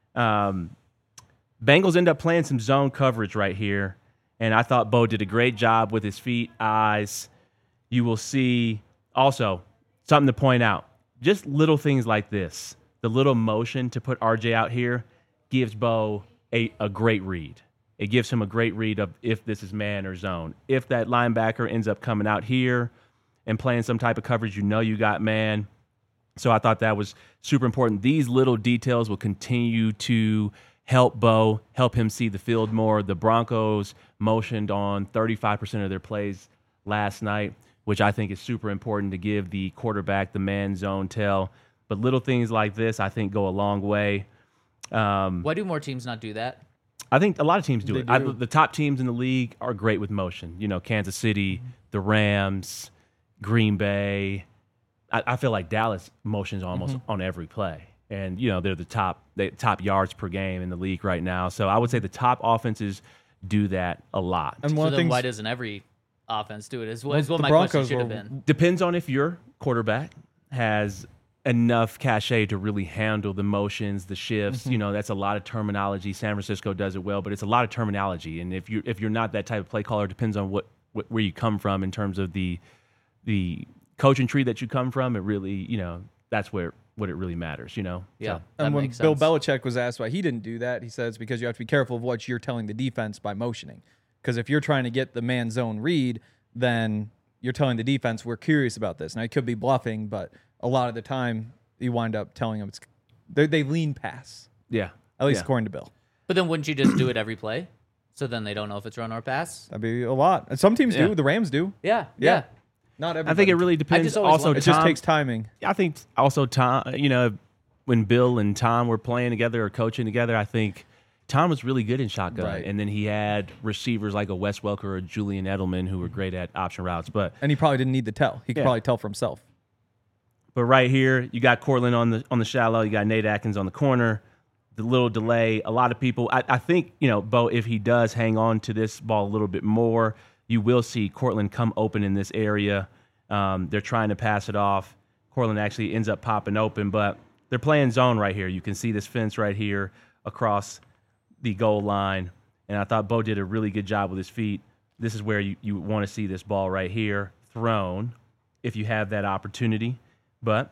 Bengals end up playing some zone coverage right here. And I thought Bo did a great job with his feet, eyes. You will see also something to point out. Just little things like this. The little motion to put RJ out here gives Bo a great read. It gives him a great read of if this is man or zone. If that linebacker ends up coming out here and playing some type of coverage, you know you got man. So I thought that was super important. These little details will continue to help Bo, help him see the field more. The Broncos motioned on 35% of their plays last night, which I think is super important to give the quarterback the man zone tell. But little things like this, I think, go a long way. Why do more teams not do that? I think a lot of teams do They it. do. The top teams in the league are great with motion. You know, Kansas City, the Rams, Green Bay. I feel like Dallas motions almost on every play. And, you know, they're the top yards per game in the league right now. So I would say the top offenses do that a lot. And So one of the then things, why doesn't every offense do it? Is what the my Broncos question should have were- been. Depends on if your quarterback has enough cachet to really handle the motions, the shifts. You know, that's a lot of terminology. San Francisco does it well, but it's a lot of terminology. And if you're not that type of play caller, it depends on where you come from in terms of the coaching tree that you come from. It really, you know, that's where what it really matters, you know? Yeah. So, That And when makes Bill sense. Belichick was asked why he didn't do that, he says because you have to be careful of what you're telling the defense by motioning. Because if you're trying to get the man zone read, then you're telling the defense we're curious about this. Now it could be bluffing, but a lot of the time you wind up telling them they lean pass. yeah. At least Yeah. according to Bill. But then wouldn't you just do it every play? So then they don't know if it's run or pass? That'd be a lot. And some teams Yeah. do. The Rams do. Yeah. Yeah. Not everybody. I think it really depends. just always Also, wondered- It just Tom- takes timing. I think also Tom, you know, when Bill and Tom were playing together or coaching together, I think Tom was really good in shotgun. Right. And then he had receivers like a Wes Welker or Julian Edelman who were great at option routes. But And he probably didn't need the tell. He could Yeah. probably tell for himself. right here, you got Cortland on the shallow, you got Nate Atkins on the corner. The little delay, a lot of people, I think, you know, Bo, if he does hang on to this ball a little bit more, you will see Cortland come open in this area. They're trying to pass it off. Cortland actually ends up popping open, but they're playing zone right here. You can see this fence right here across the goal line. And I thought Bo did a really good job with his feet. This is where you want to see this ball right here thrown if you have that opportunity. But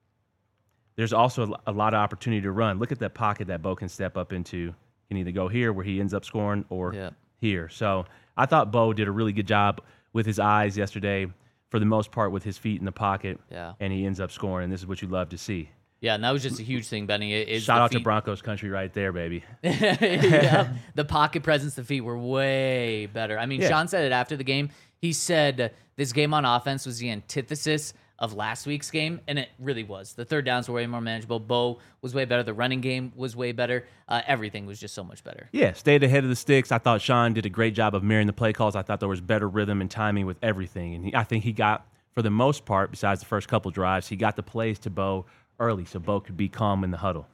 there's also a lot of opportunity to run. Look at that pocket that Bo can step up into. You can either go here where he ends up scoring or Yeah. here. So I thought Bo did a really good job with his eyes yesterday, for the most part with his feet in the pocket, Yeah. and he ends up scoring, and this is what you love to see. Yeah, and that was just a huge thing, Benny. Shout out to Broncos country right there, baby. Yeah, the pocket presence, the feet were way better. I mean, Yeah. Sean said it after the game. He said this game on offense was the antithesis of last week's game, and it really was. The third downs were way more manageable. Bo was way better. The running game was way better. Everything was just so much better. Yeah, stayed ahead of the sticks. I thought Sean did a great job of mirroring the play calls. I thought there was better rhythm and timing with everything. And I think he got, for the most part, besides the first couple drives, he got the plays to Bo early so Bo could be calm in the huddle.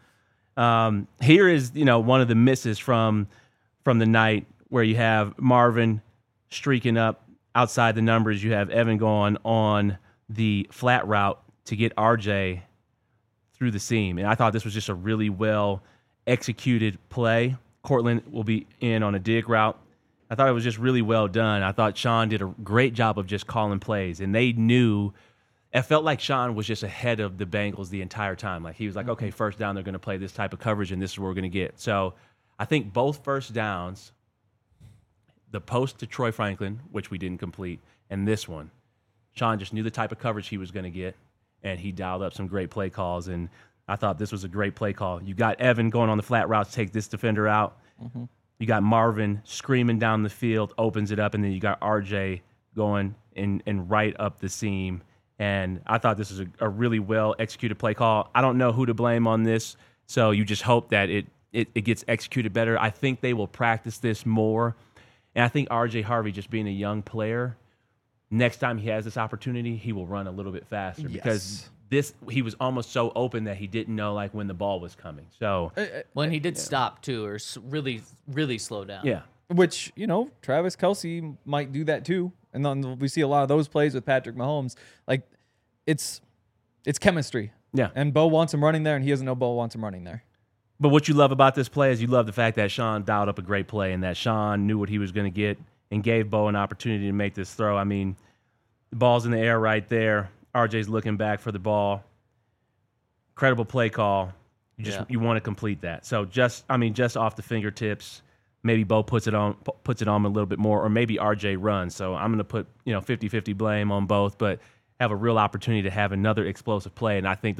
Here is, one of the misses from the night where you have Marvin streaking up outside the numbers. You have Evan going on the flat route to get RJ through the seam. And I thought this was just a really well executed play. Cortland will be in on a dig route. I thought it was just really well done. I thought Sean did a great job of just calling plays, and they knew. It felt like Sean was just ahead of the Bengals the entire time. Like he was like, okay, first down, they're going to play this type of coverage, and this is what we're going to get. So I think both first downs, the post to Troy Franklin, which we didn't complete, and this one, Sean just knew the type of coverage he was going to get, and he dialed up some great play calls. And I thought this was a great play call. You got Evan going on the flat route to take this defender out. Mm-hmm. You got Marvin screaming down the field, opens it up, and then you got RJ going and right up the seam. And I thought this was a really well executed play call. I don't know who to blame on this, so you just hope that it gets executed better. I think they will practice this more. And I think RJ Harvey, just being a young player, next time he has this opportunity, he will run a little bit faster because he was almost so open that he didn't know like when the ball was coming. So When he did stop too, or really, really slow down. yeah, Which, Travis Kelce might do that too. And then we see a lot of those plays with Patrick Mahomes. Like, it's chemistry. yeah. And Bo wants him running there, and he doesn't know Bo wants him running there. But what you love about this play is you love the fact that Sean dialed up a great play and that Sean knew what he was going to get and gave Bo an opportunity to make this throw. I mean, the ball's in the air right there. RJ's looking back for the ball. Incredible play call. You want to complete that. So just off the fingertips, maybe Bo puts it on a little bit more, or maybe RJ runs. So I'm going to put 50-50 blame on both, but have a real opportunity to have another explosive play. And I think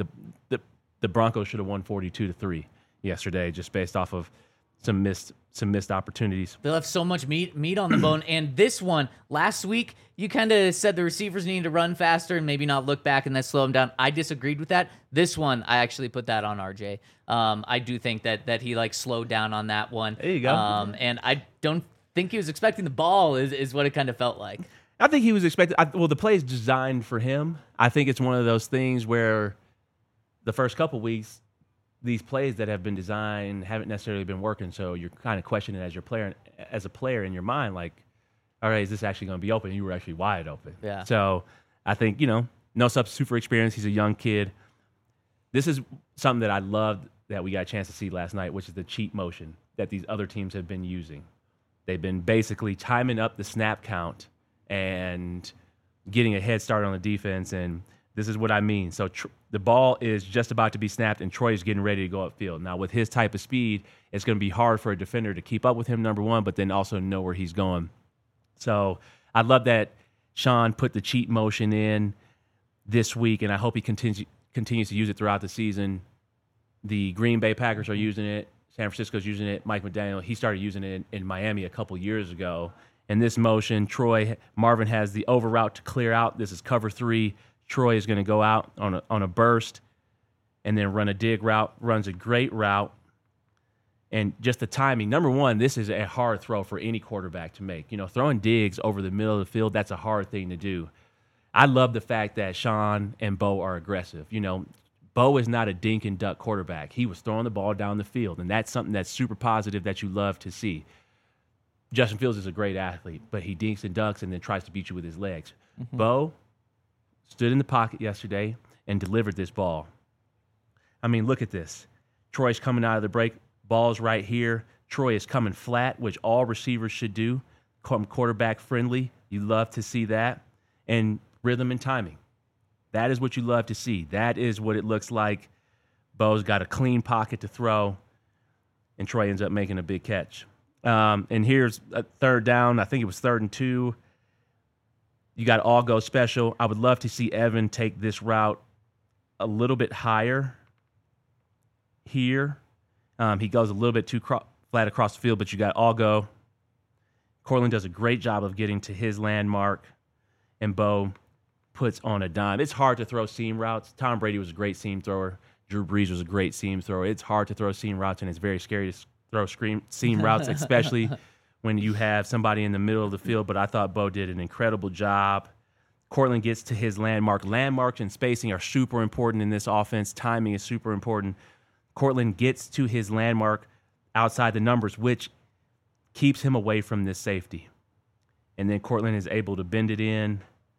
the Broncos should have won 42-3 yesterday, just based off of some missed opportunities. They'll have so much meat on the bone. And this one, last week, you kind of said the receivers needed to run faster and maybe not look back and that slow them down. I disagreed with that. This one, I actually put that on RJ. I do think that he slowed down on that one. There you go. And I don't think he was expecting the ball is what it kind of felt like. I think he was expected. The play is designed for him. I think it's one of those things where the first couple weeks, these plays that have been designed haven't necessarily been working. So you're kind of questioning as a player in your mind, like, all right, is this actually going to be open? You were actually wide open. Yeah. So I think, no substitute for experience. He's a young kid. This is something that I loved that we got a chance to see last night, which is the cheat motion that these other teams have been using. They've been basically timing up the snap count and getting a head start on the defense. And This is what I mean. So the ball is just about to be snapped, and Troy is getting ready to go upfield. Now, with his type of speed, it's going to be hard for a defender to keep up with him, number one, but then also know where he's going. So I love that Sean put the cheat motion in this week, and I hope he continues to use it throughout the season. The Green Bay Packers are using it. San Francisco's using it. Mike McDaniel, he started using it in Miami a couple years ago. In this motion, Marvin has the over route to clear out. This is cover 3. Troy is going to go out on a burst and then run a dig route, runs a great route. And just the timing. Number one, this is a hard throw for any quarterback to make. You know, throwing digs over the middle of the field, that's a hard thing to do. I love the fact that Sean and Bo are aggressive. You know, Bo is not a dink and duck quarterback. He was throwing the ball down the field, and that's something that's super positive that you love to see. Justin Fields is a great athlete, but he dinks and ducks and then tries to beat you with his legs. Mm-hmm. Bo stood in the pocket yesterday and delivered this ball. I mean, look at this. Troy's coming out of the break. Ball's right here. Troy is coming flat, which all receivers should do. Quarterback friendly. You love to see that. And rhythm and timing. That is what you love to see. That is what it looks like. Bo's got a clean pocket to throw, and Troy ends up making a big catch. And here's a third down. I think it was 3rd and 2. You got all go special. I would love to see Evan take this route a little bit higher here. He goes a little bit too flat across the field, but you got all go. Cortland does a great job of getting to his landmark, and Bo puts on a dime. It's hard to throw seam routes. Tom Brady was a great seam thrower. Drew Brees was a great seam thrower. It's hard to throw seam routes, and it's very scary to throw seam routes, especially when you have somebody in the middle of the field. But I thought Bo did an incredible job. Cortland gets to his landmark. Landmarks and spacing are super important in this offense. Timing is super important. Cortland gets to his landmark outside the numbers, which keeps him away from this safety. And then Cortland is able to bend it in.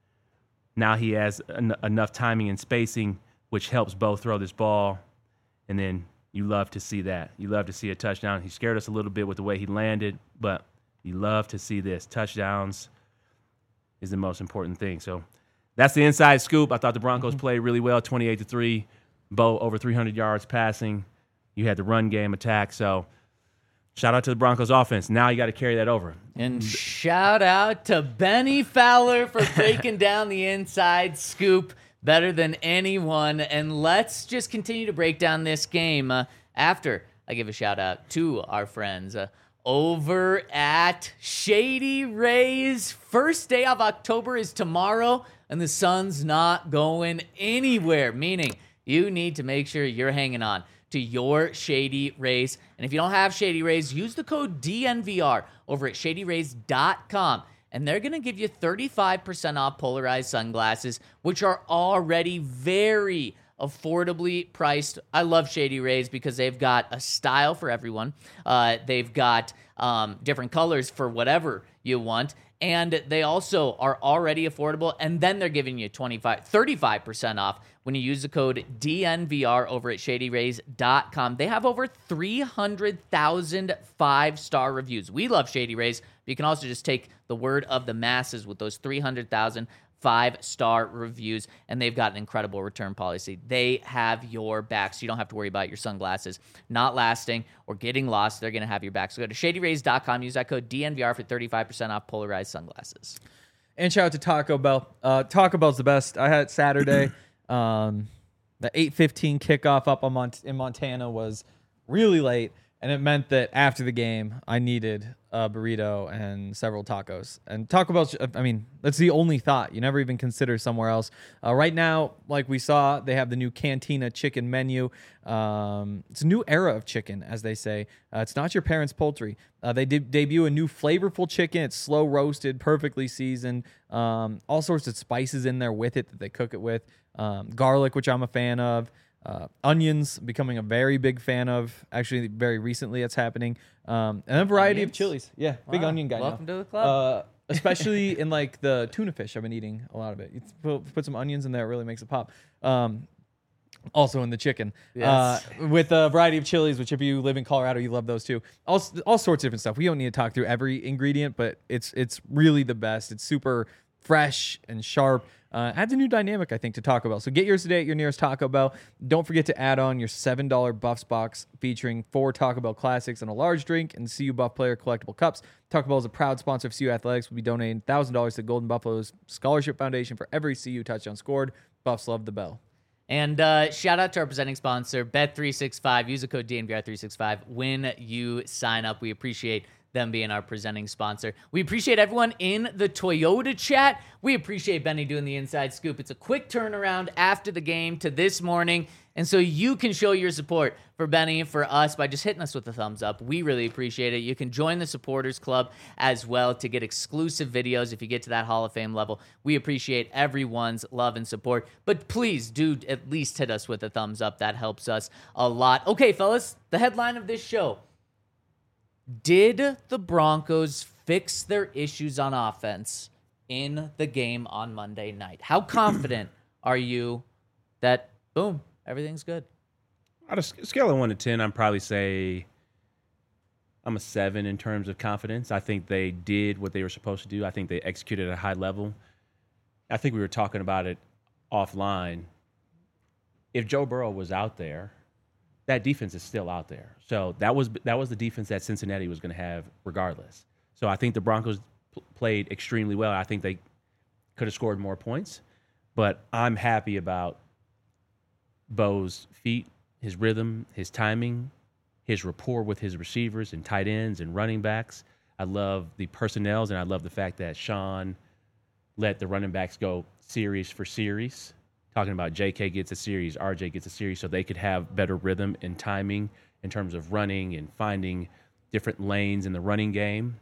Now he has enough timing and spacing, which helps Bo throw this ball. And then you love to see that. You love to see a touchdown. He scared us a little bit with the way he landed, but you love to see this. Touchdowns is the most important thing. So that's the inside scoop. I thought the Broncos played really well, 28-3. Bo over 300 yards passing. You had the run game attack. So shout out to the Broncos offense. Now you got to carry that over. And shout out to Benny Fowler for breaking down the inside scoop better than anyone. And let's just continue to break down this game after I give a shout out to our friends over at Shady Rays. First day of October is tomorrow, and the sun's not going anywhere, meaning you need to make sure you're hanging on to your Shady Rays. And if you don't have Shady Rays, use the code DNVR over at shadyrays.com. And they're going to give you 35% off polarized sunglasses, which are already very affordably priced. I love Shady Rays because they've got a style for everyone. They've got different colors for whatever you want. And they also are already affordable. And then they're giving you 35% off when you use the code DNVR over at shadyrays.com. They have over 300,000 5-star reviews. We love Shady Rays, but you can also just take the word of the masses with those 300,000 5-star reviews, and they've got an incredible return policy. They have your back, so you don't have to worry about your sunglasses not lasting or getting lost. They're going to have your back. So go to shadyrays.com, use that code DNVR for 35% off polarized sunglasses. And shout out to Taco Bell. Taco Bell's the best. I had Saturday. The 8:15 kickoff up in Montana was really late, and it meant that after the game, I needed a burrito and several tacos. And Taco Bell's, I mean, that's the only thought. You never even consider somewhere else. Right now, like we saw, they have the new Cantina chicken menu. It's a new era of chicken, as they say. It's not your parents' poultry. They debut a new flavorful chicken. It's slow roasted, perfectly seasoned. All sorts of spices in there with it that they cook it with. Garlic, which I'm a fan of. Onions, becoming a very big fan of. Actually, very recently it's happening. And a variety of chilies. Yeah, big onion guy. Welcome now. to the club. Especially in like the tuna fish. I've been eating a lot of it. You put some onions in there, it really makes it pop. Also in the chicken. Yes. With a variety of chilies, which if you live in Colorado, you love those too. All sorts of different stuff. We don't need to talk through every ingredient, but it's really the best. It's super fresh and sharp. Adds a new dynamic, I think, to Taco Bell. So get yours today at your nearest Taco Bell. Don't forget to add on your $7 Buffs box featuring 4 Taco Bell classics and a large drink and CU Buff player collectible cups. Taco Bell is a proud sponsor of CU Athletics. We'll be donating $1,000 to Golden Buffalo's Scholarship Foundation for every CU touchdown scored. Buffs love the bell. And shout out to our presenting sponsor, Bet365. Use the code DNVR365 when you sign up. We appreciate them being our presenting sponsor. We appreciate everyone in the Toyota chat. We appreciate Benny doing the inside scoop. It's a quick turnaround after the game to this morning. And so you can show your support for Benny and for us by just hitting us with a thumbs up. We really appreciate it. You can join the supporters club as well to get exclusive videos if you get to that Hall of Fame level. We appreciate everyone's love and support. But please do at least hit us with a thumbs up. That helps us a lot. Okay, fellas, the headline of this show. Did the Broncos fix their issues on offense in the game on Monday night? How confident are you that, boom, everything's good? On a scale of 1 to 10, I'd probably say I'm a 7 in terms of confidence. I think they did what they were supposed to do. I think they executed at a high level. I think we were talking about it offline. If Joe Burrow was out there, that defense is still out there. So that was the defense that Cincinnati was going to have regardless. So I think the Broncos played extremely well. I think they could have scored more points, but I'm happy about Bo's feet, his rhythm, his timing, his rapport with his receivers and tight ends and running backs. I love the personnels, and I love the fact that Sean let the running backs go series for series. Talking about JK gets a series, RJ gets a series, so they could have better rhythm and timing in terms of running and finding different lanes in the running game.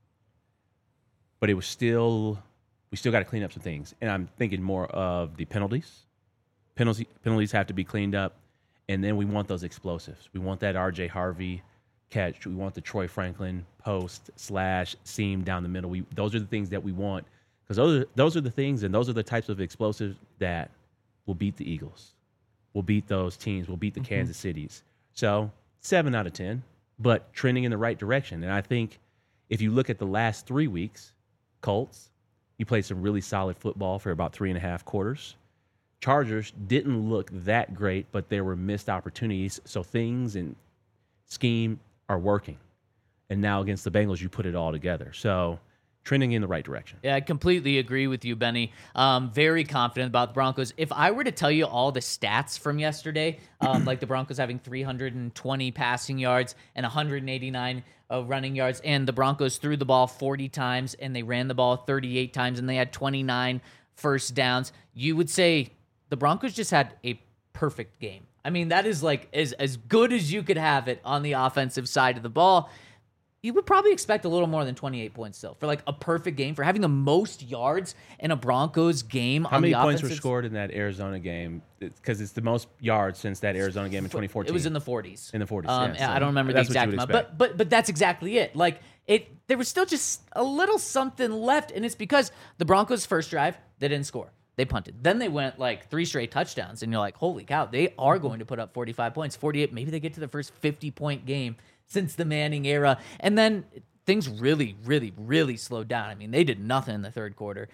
But we still got to clean up some things. And I'm thinking more of the penalties. Penalties have to be cleaned up. And then we want those explosives. We want that RJ Harvey catch. We want the Troy Franklin post / seam down the middle. Those are the things that we want, because those are the things, and those are the types of explosives that will beat the Eagles. We'll beat those teams. We'll beat the Kansas Cities. So 7 out of 10, but trending in the right direction. And I think if you look at the last 3 weeks, Colts, you played some really solid football for about 3.5 quarters. Chargers didn't look that great, but there were missed opportunities. So things and scheme are working. And now against the Bengals, you put it all together. So trending in the right direction. Yeah, I completely agree with you, Benny. Very confident about the Broncos. If I were to tell you all the stats from yesterday, like the Broncos having 320 passing yards and 189 running yards, and the Broncos threw the ball 40 times and they ran the ball 38 times and they had 29 first downs, you would say the Broncos just had a perfect game. I mean, that is like as good as you could have it on the offensive side of the ball. You would probably expect a little more than 28 points still for like a perfect game, for having the most yards in a Broncos game. How many points were scored in that Arizona game? Because it's the most yards since that Arizona game in 2014. It was in the 40s. In the 40s, yeah, I don't remember the exact amount, but that's exactly it. Like there was still just a little something left, and it's because the Broncos' first drive, they didn't score. They punted. Then they went like 3 straight touchdowns, and you're like, holy cow, they are going to put up 45 points, 48. Maybe they get to the first 50-point game since the Manning era. And then things really, really, really slowed down. I mean, they did nothing in the third quarter.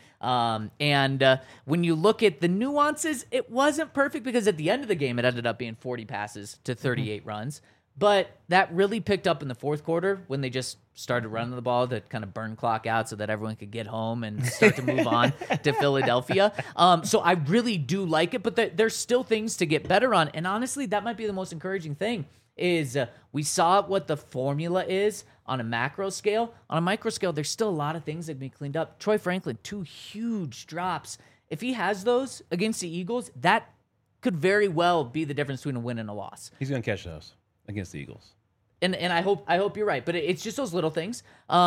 And when you look at the nuances, it wasn't perfect because at the end of the game, it ended up being 40 passes to 38 runs. But that really picked up in the fourth quarter when they just started running the ball to kind of burn clock out so that everyone could get home and start to move on to Philadelphia. So I really do like it, but there's still things to get better on. And honestly, that might be the most encouraging thing is we saw what the formula is on a macro scale. On a micro scale, there's still a lot of things that can be cleaned up. Troy Franklin, 2 huge drops. If he has those against the Eagles, that could very well be the difference between a win and a loss. He's going to catch those against the Eagles. And I hope you're right, but it's just those little things.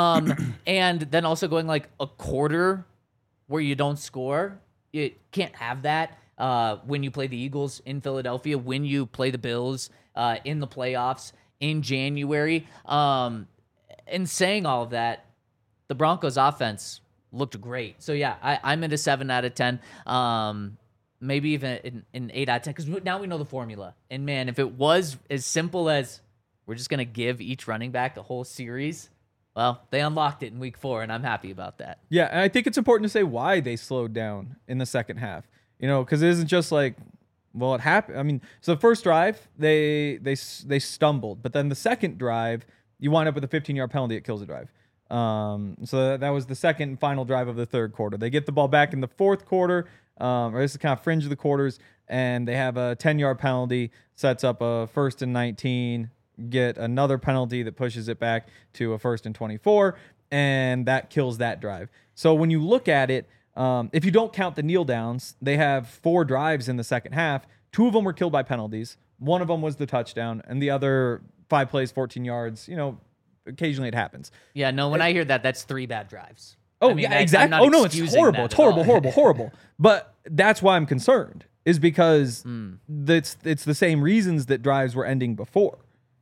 And then also going like a quarter where you don't score, you can't have that when you play the Eagles in Philadelphia, when you play the Bills in the playoffs in January. And saying all of that, the Broncos offense looked great. So yeah, I'm into 7 out of 10. Maybe even an 8 out of 10, because now we know the formula. And man, if it was as simple as we're just going to give each running back the whole series, Well, they unlocked it in week 4, and I'm happy about that. Yeah, and I think it's important to say why they slowed down in the second half. Because it isn't just like, well, it happened. I mean, so the first drive they stumbled, but then the second drive you wind up with a 15-yard penalty. It kills the drive. So that was the second and final drive of the third quarter. They get the ball back in the fourth quarter, or this is kind of fringe of the quarters, and they have a 10-yard penalty, sets up a 1st and 19, get another penalty that pushes it back to a 1st and 24, and that kills that drive. So when you look at it, if you don't count the kneel downs, they have 4 drives in the second half. 2 of them were killed by penalties. 1 of them was the touchdown, and the other 5 plays, 14 yards. Occasionally it happens. Yeah, no, when I hear that, that's 3 bad drives. Oh, I mean, yeah, exactly. Oh, no, it's horrible. It's horrible, horrible, horrible. But that's why I'm concerned, is because it's the same reasons that drives were ending before.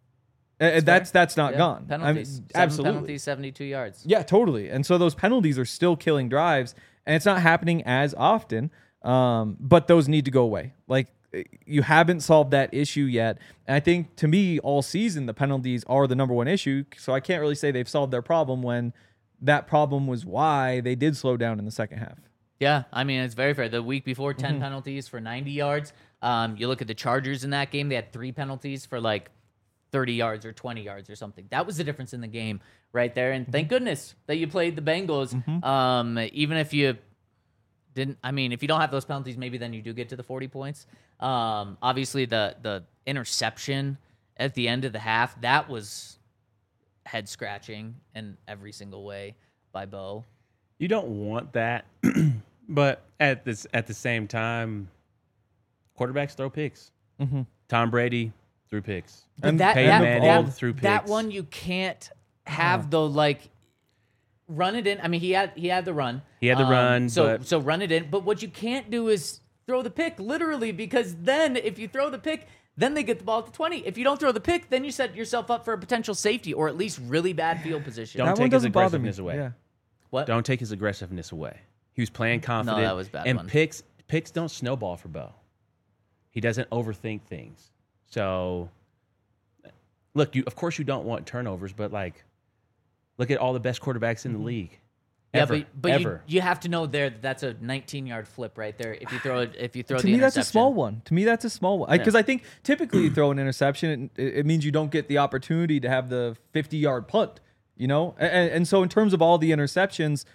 That's not gone. Penalties. 7 absolutely. penalties, 72 yards. Yeah, totally. And so those penalties are still killing drives, and it's not happening as often, but those need to go away. Like, you haven't solved that issue yet. And I think, to me, all season, the penalties are the number one issue, so I can't really say they've solved their problem when that problem was why they did slow down in the second half. Yeah, I mean, it's very fair. The week before, 10 penalties for 90 yards. You look at the Chargers in that game, they had 3 penalties for like 30 yards or 20 yards or something. That was the difference in the game right there. And thank goodness that you played the Bengals. Even if you didn't, I mean, if you don't have those penalties, maybe then you do get to the 40 points. Obviously, the interception at the end of the half, that was head scratching in every single way by Bo. You don't want that, but at the same time, quarterbacks throw picks. Tom Brady threw picks. And threw picks. That one you can't have though. Like, run it in. I mean, he had the run. He had the run. So run it in. But what you can't do is throw the pick, literally, because then if you throw the pick, then they get the ball at the 20. If you don't throw the pick, then you set yourself up for a potential safety or at least really bad field position. Don't take his aggressiveness away. Yeah. What? Don't take his aggressiveness away. He was playing confident. No, that was bad. And picks don't snowball for Bo. He doesn't overthink things. So, look, of course you don't want turnovers, but like, look at all the best quarterbacks in the league. Yeah, but you have to know that's a 19-yard flip right there. If you throw the interception. To me, that's a small one. Because I think typically you throw an interception, it means you don't get the opportunity to have the 50-yard punt, And so in terms of all the interceptions,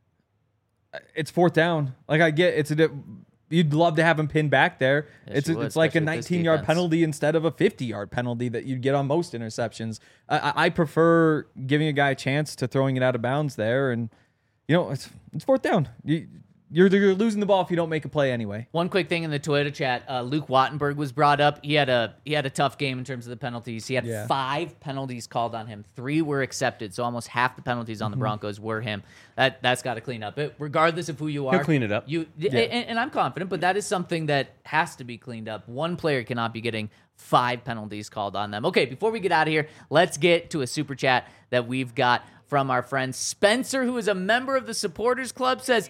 it's 4th down. Like, I get you'd love to have him pinned back there. Yes, It's like a 19-yard penalty instead of a 50-yard penalty that you'd get on most interceptions. I prefer giving a guy a chance to throwing it out of bounds there, and it's 4th down. You're losing the ball if you don't make a play anyway. One quick thing in the Toyota chat, Luke Wattenberg was brought up. He had a tough game in terms of the penalties. He had 5 penalties called on him. 3 were accepted, so almost half the penalties on the Broncos were him. That's got to clean up. Regardless of who you are, he'll clean it up. And I'm confident, but that is something that has to be cleaned up. One player cannot be getting 5 penalties called on them. Okay, before we get out of here, let's get to a super chat that we've got from our friend Spencer, who is a member of the Supporters Club. Says,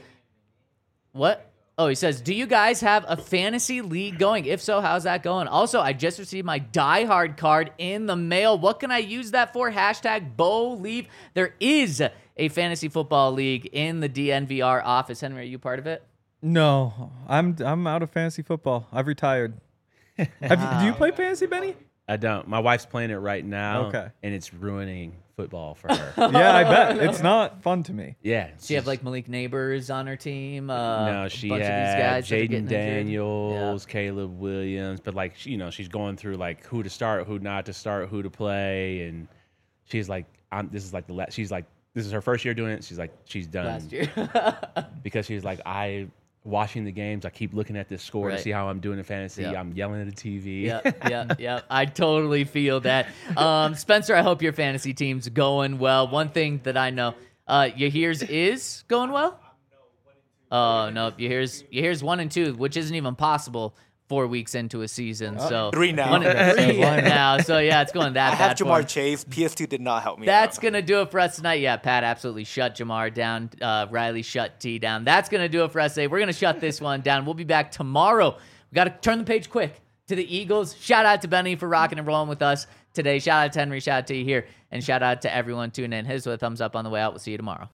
what? Oh, he says, do you guys have a fantasy league going? If so, how's that going? Also, I just received my Die Hard card in the mail. What can I use that for? #BoLeave. There is a fantasy football league in the DNVR office. Henry, are you part of it? No, I'm out of fantasy football. I've retired. Do you play fantasy, Benny? I don't. My wife's playing it right now. Okay. And it's ruining football for her. Yeah, I bet. It's not fun to me. Yeah. Does she have like Malik Neighbors on her team? No, she bunch had of these guys Jaden Daniels, Caleb Williams, but like, she's going through like who to start, who not to start, who to play, and she's like, this is her first year doing it. She's like, she's done last year because she's like, watching the games, I keep looking at this score to see how I'm doing in fantasy. Yep. I'm yelling at the TV. Yeah. I totally feel that. Spencer, I hope your fantasy team's going well. One thing that I know, Yahir's is going well? Oh, no. Yahir's 1 and 2, which isn't even possible 4 weeks into a season. So 3 now. 1 and 3 now. So, yeah, it's going that I bad have for Jamar him. Chase. PS2 did not help me That's out. going to do it for us tonight. Yeah, Pat absolutely shut Jamar down. Riley shut T down. That's going to do it for us today. We're going to shut this one down. We'll be back tomorrow. We got to turn the page quick. to the Eagles. Shout out to Benny for rocking and rolling with us today. Shout out to Henry. Shout out to you here. And shout out to everyone tuning in. Hit us with a thumbs up on the way out. We'll see you tomorrow.